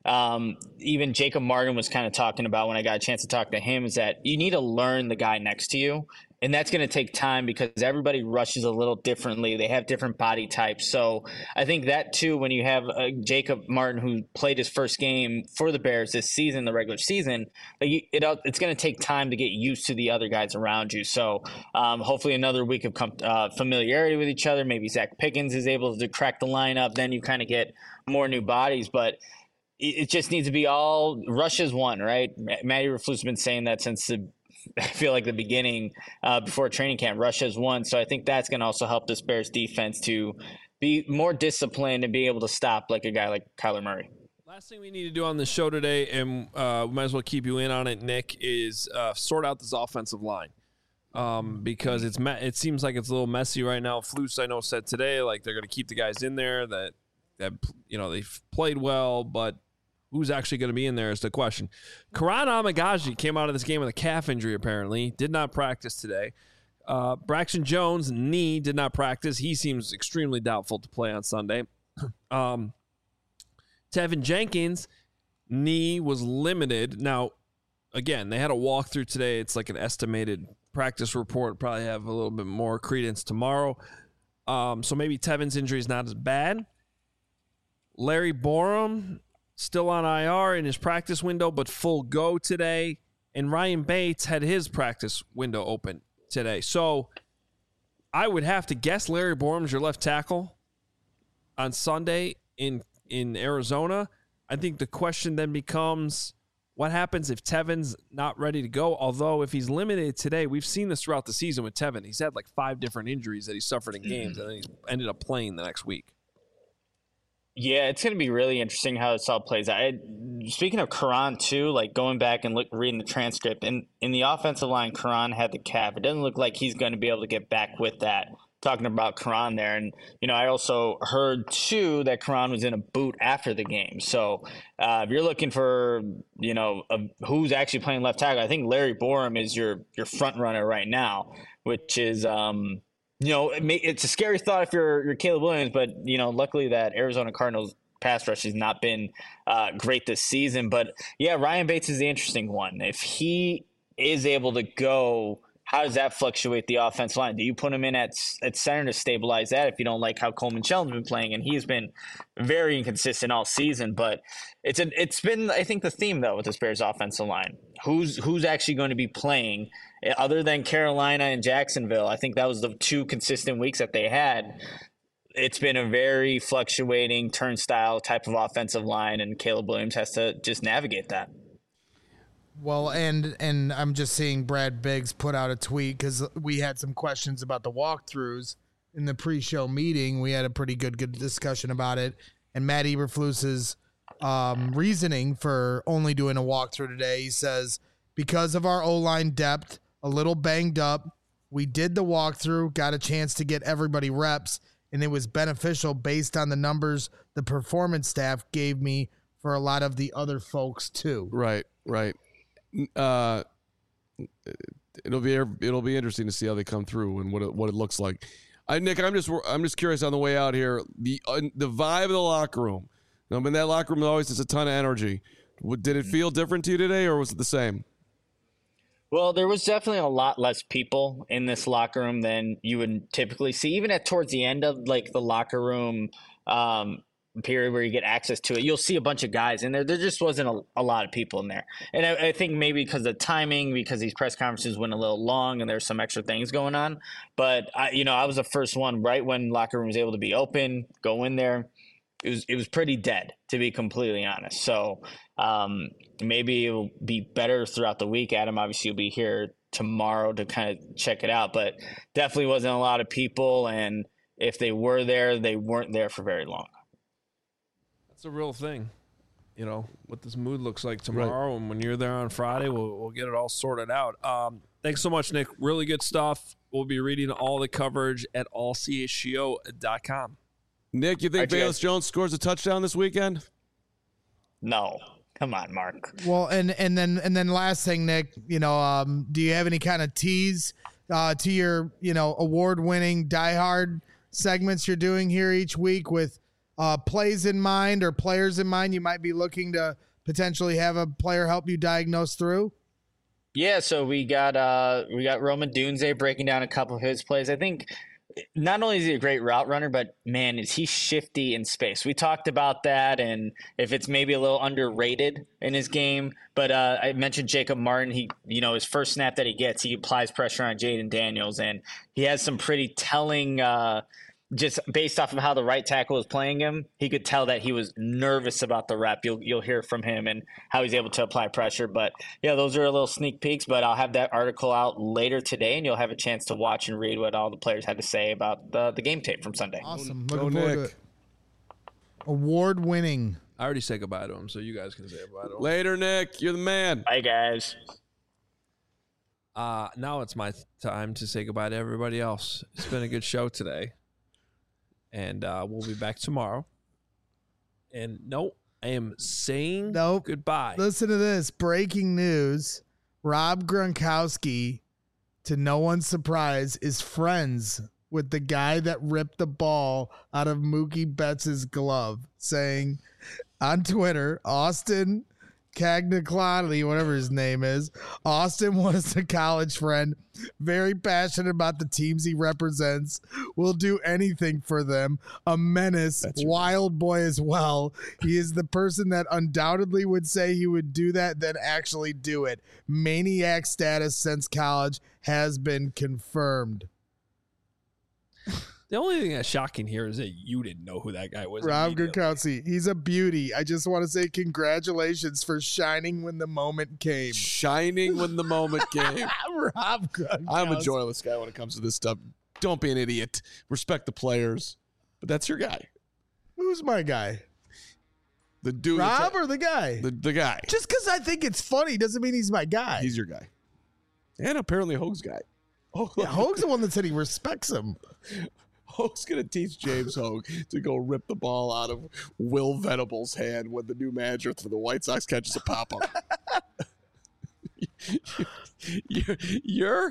even Jacob Martin was kind of talking about when I got a chance to talk to him, is that you need to learn the guy next to you. And that's going to take time because everybody rushes a little differently. They have different body types. So I think that, too, when you have Jacob Martin, who played his first game for the Bears this season, the regular season, it's going to take time to get used to the other guys around you. So hopefully another week of familiarity with each other. Maybe Zach Pickens is able to crack the lineup. Then you kind of get more new bodies. But it just needs to be all rush as one, right? Matty Eberflus has been saying that since I feel like the beginning before training camp, rush as one. So I think that's going to also help this Bears defense to be more disciplined and be able to stop like a guy like Kyler Murray. Last thing we need to do on the show today, and we might as well keep you in on it, Nick, is sort out this offensive line. Because it seems like it's a little messy right now. Flus, I know, said today like they're going to keep the guys in there that they've played well, but who's actually going to be in there is the question. Karan Amagaji came out of this game with a calf injury, apparently. Did not practice today. Braxton Jones, knee, did not practice. He seems extremely doubtful to play on Sunday. Tevin Jenkins, knee, was limited. Now, again, they had a walkthrough today. It's like an estimated practice report. Probably have a little bit more credence tomorrow. So maybe Tevin's injury is not as bad. Larry Borum, still on IR in his practice window, but full go today. And Ryan Bates had his practice window open today. So I would have to guess Larry Borum's your left tackle on Sunday in Arizona. I think the question then becomes, what happens if Tevin's not ready to go? Although if he's limited today, we've seen this throughout the season with Tevin. He's had like 5 different injuries that he suffered in games, and then he's ended up playing the next week. Yeah, it's going to be really interesting how this all plays out. Speaking of Karan, too, like going back and reading the transcript, in the offensive line, Karan had the calf. It doesn't look like he's going to be able to get back with that. Talking about Karan there. And, I also heard, too, that Karan was in a boot after the game. So if you're looking for, who's actually playing left tackle, I think Larry Borum is your front runner right now, which is it's a scary thought if you're Caleb Williams, but, luckily that Arizona Cardinals pass rush has not been great this season. But, yeah, Ryan Bates is the interesting one. If he is able to go, how does that fluctuate the offensive line? Do you put him in at center to stabilize that if you don't like how Coleman Shelton's been playing? And he's been very inconsistent all season. But it's been, I think, the theme, though, with this Bears offensive line. Who's actually going to be playing other than Carolina and Jacksonville? I think that was the 2 consistent weeks that they had. It's been a very fluctuating turnstile type of offensive line, and Caleb Williams has to just navigate that. Well, and I'm just seeing Brad Biggs put out a tweet because we had some questions about the walkthroughs in the pre-show meeting. We had a pretty good discussion about it, and Matt Eberflus's reasoning for only doing a walkthrough today. He says, because of our O-line depth, a little banged up, We did the walkthrough, got a chance to get everybody reps, and it was beneficial based on the numbers the performance staff gave me for a lot of the other folks too. Right. It'll be interesting to see how they come through and what it looks like. Nick, I'm just curious on the way out here. The vibe of the locker room. I mean, that locker room always has a ton of energy. Did it feel different to you today, or was it the same? Well, there was definitely a lot less people in this locker room than you would typically see, even towards the end of like the locker room period where you get access to it. You'll see a bunch of guys in there. There just wasn't a lot of people in there. And I think maybe because of timing, because these press conferences went a little long and there's some extra things going on. But I was the first one right when locker room was able to be open, go in there. It was pretty dead, to be completely honest. So maybe it'll be better throughout the week. Adam, obviously, you'll be here tomorrow to kind of check it out, but definitely wasn't a lot of people. And if they were there, they weren't there for very long. That's a real thing. What this mood looks like tomorrow. Right. And when you're there on Friday, we'll get it all sorted out. Thanks so much, Nick. Really good stuff. We'll be reading all the coverage at allchgo.com. Nick, you think Velus Jones scores a touchdown this weekend? No. Come on, Mark. Well, and then last thing, Nick, do you have any kind of tease to your, award-winning diehard segments you're doing here each week with plays in mind or players in mind you might be looking to potentially have a player help you diagnose through? Yeah, so we got Roman Dunze breaking down a couple of his plays. I think not only is he a great route runner, but man, is he shifty in space. We talked about that, and if it's maybe a little underrated in his game. But I mentioned Jacob Martin. He, his first snap that he gets, he applies pressure on Jaden Daniels, and he has some pretty telling. Just based off of how the right tackle was playing him, he could tell that he was nervous about the rep. You'll hear from him and how he's able to apply pressure. But yeah, those are a little sneak peeks. But I'll have that article out later today, and you'll have a chance to watch and read what all the players had to say about the game tape from Sunday. Awesome, looking forward to it. Award-winning. I already said goodbye to him, so you guys can say goodbye to him. Later, Nick. You're the man. Bye, guys. Now it's my time to say goodbye to everybody else. It's been a good show today. And we'll be back tomorrow. And I am saying goodbye. Listen to this. Breaking news. Rob Gronkowski, to no one's surprise, is friends with the guy that ripped the ball out of Mookie Betts' glove, saying on Twitter, Austin Cagnaclani, whatever his name is. Austin was a college friend, very passionate about the teams he represents, will do anything for them, a menace, wild boy as well. He is the person that undoubtedly would say he would do that, then actually do it. Maniac status since college has been confirmed. The only thing that's shocking here is that you didn't know who that guy was. Rob Gronkowski. He's a beauty. I just want to say congratulations for shining when the moment came. Shining when the moment came. Rob Gronkowski. I'm a joyless guy when it comes to this stuff. Don't be an idiot. Respect the players. But that's your guy. Who's my guy? The dude. Rob or the guy? The guy. Just because I think it's funny doesn't mean he's my guy. He's your guy. And apparently Hoag's guy. Oh, yeah, Hoag's the one that said he respects him. Hoag's going to teach James Hoag to go rip the ball out of Will Venable's hand when the new manager for the White Sox catches a pop-up. You're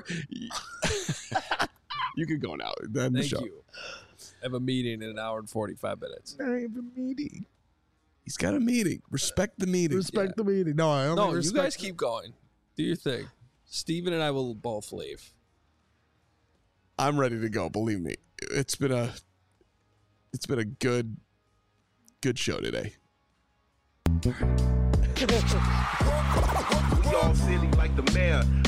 you can go now. Then Thank you. I have a meeting in an hour and 45 minutes. I have a meeting. He's got a meeting. Respect the meeting. Respect the meeting. No, I only you guys keep going. Do your thing. Steven and I will both leave. I'm ready to go. Believe me, it's been a good show today. Y'all silly like the mayor.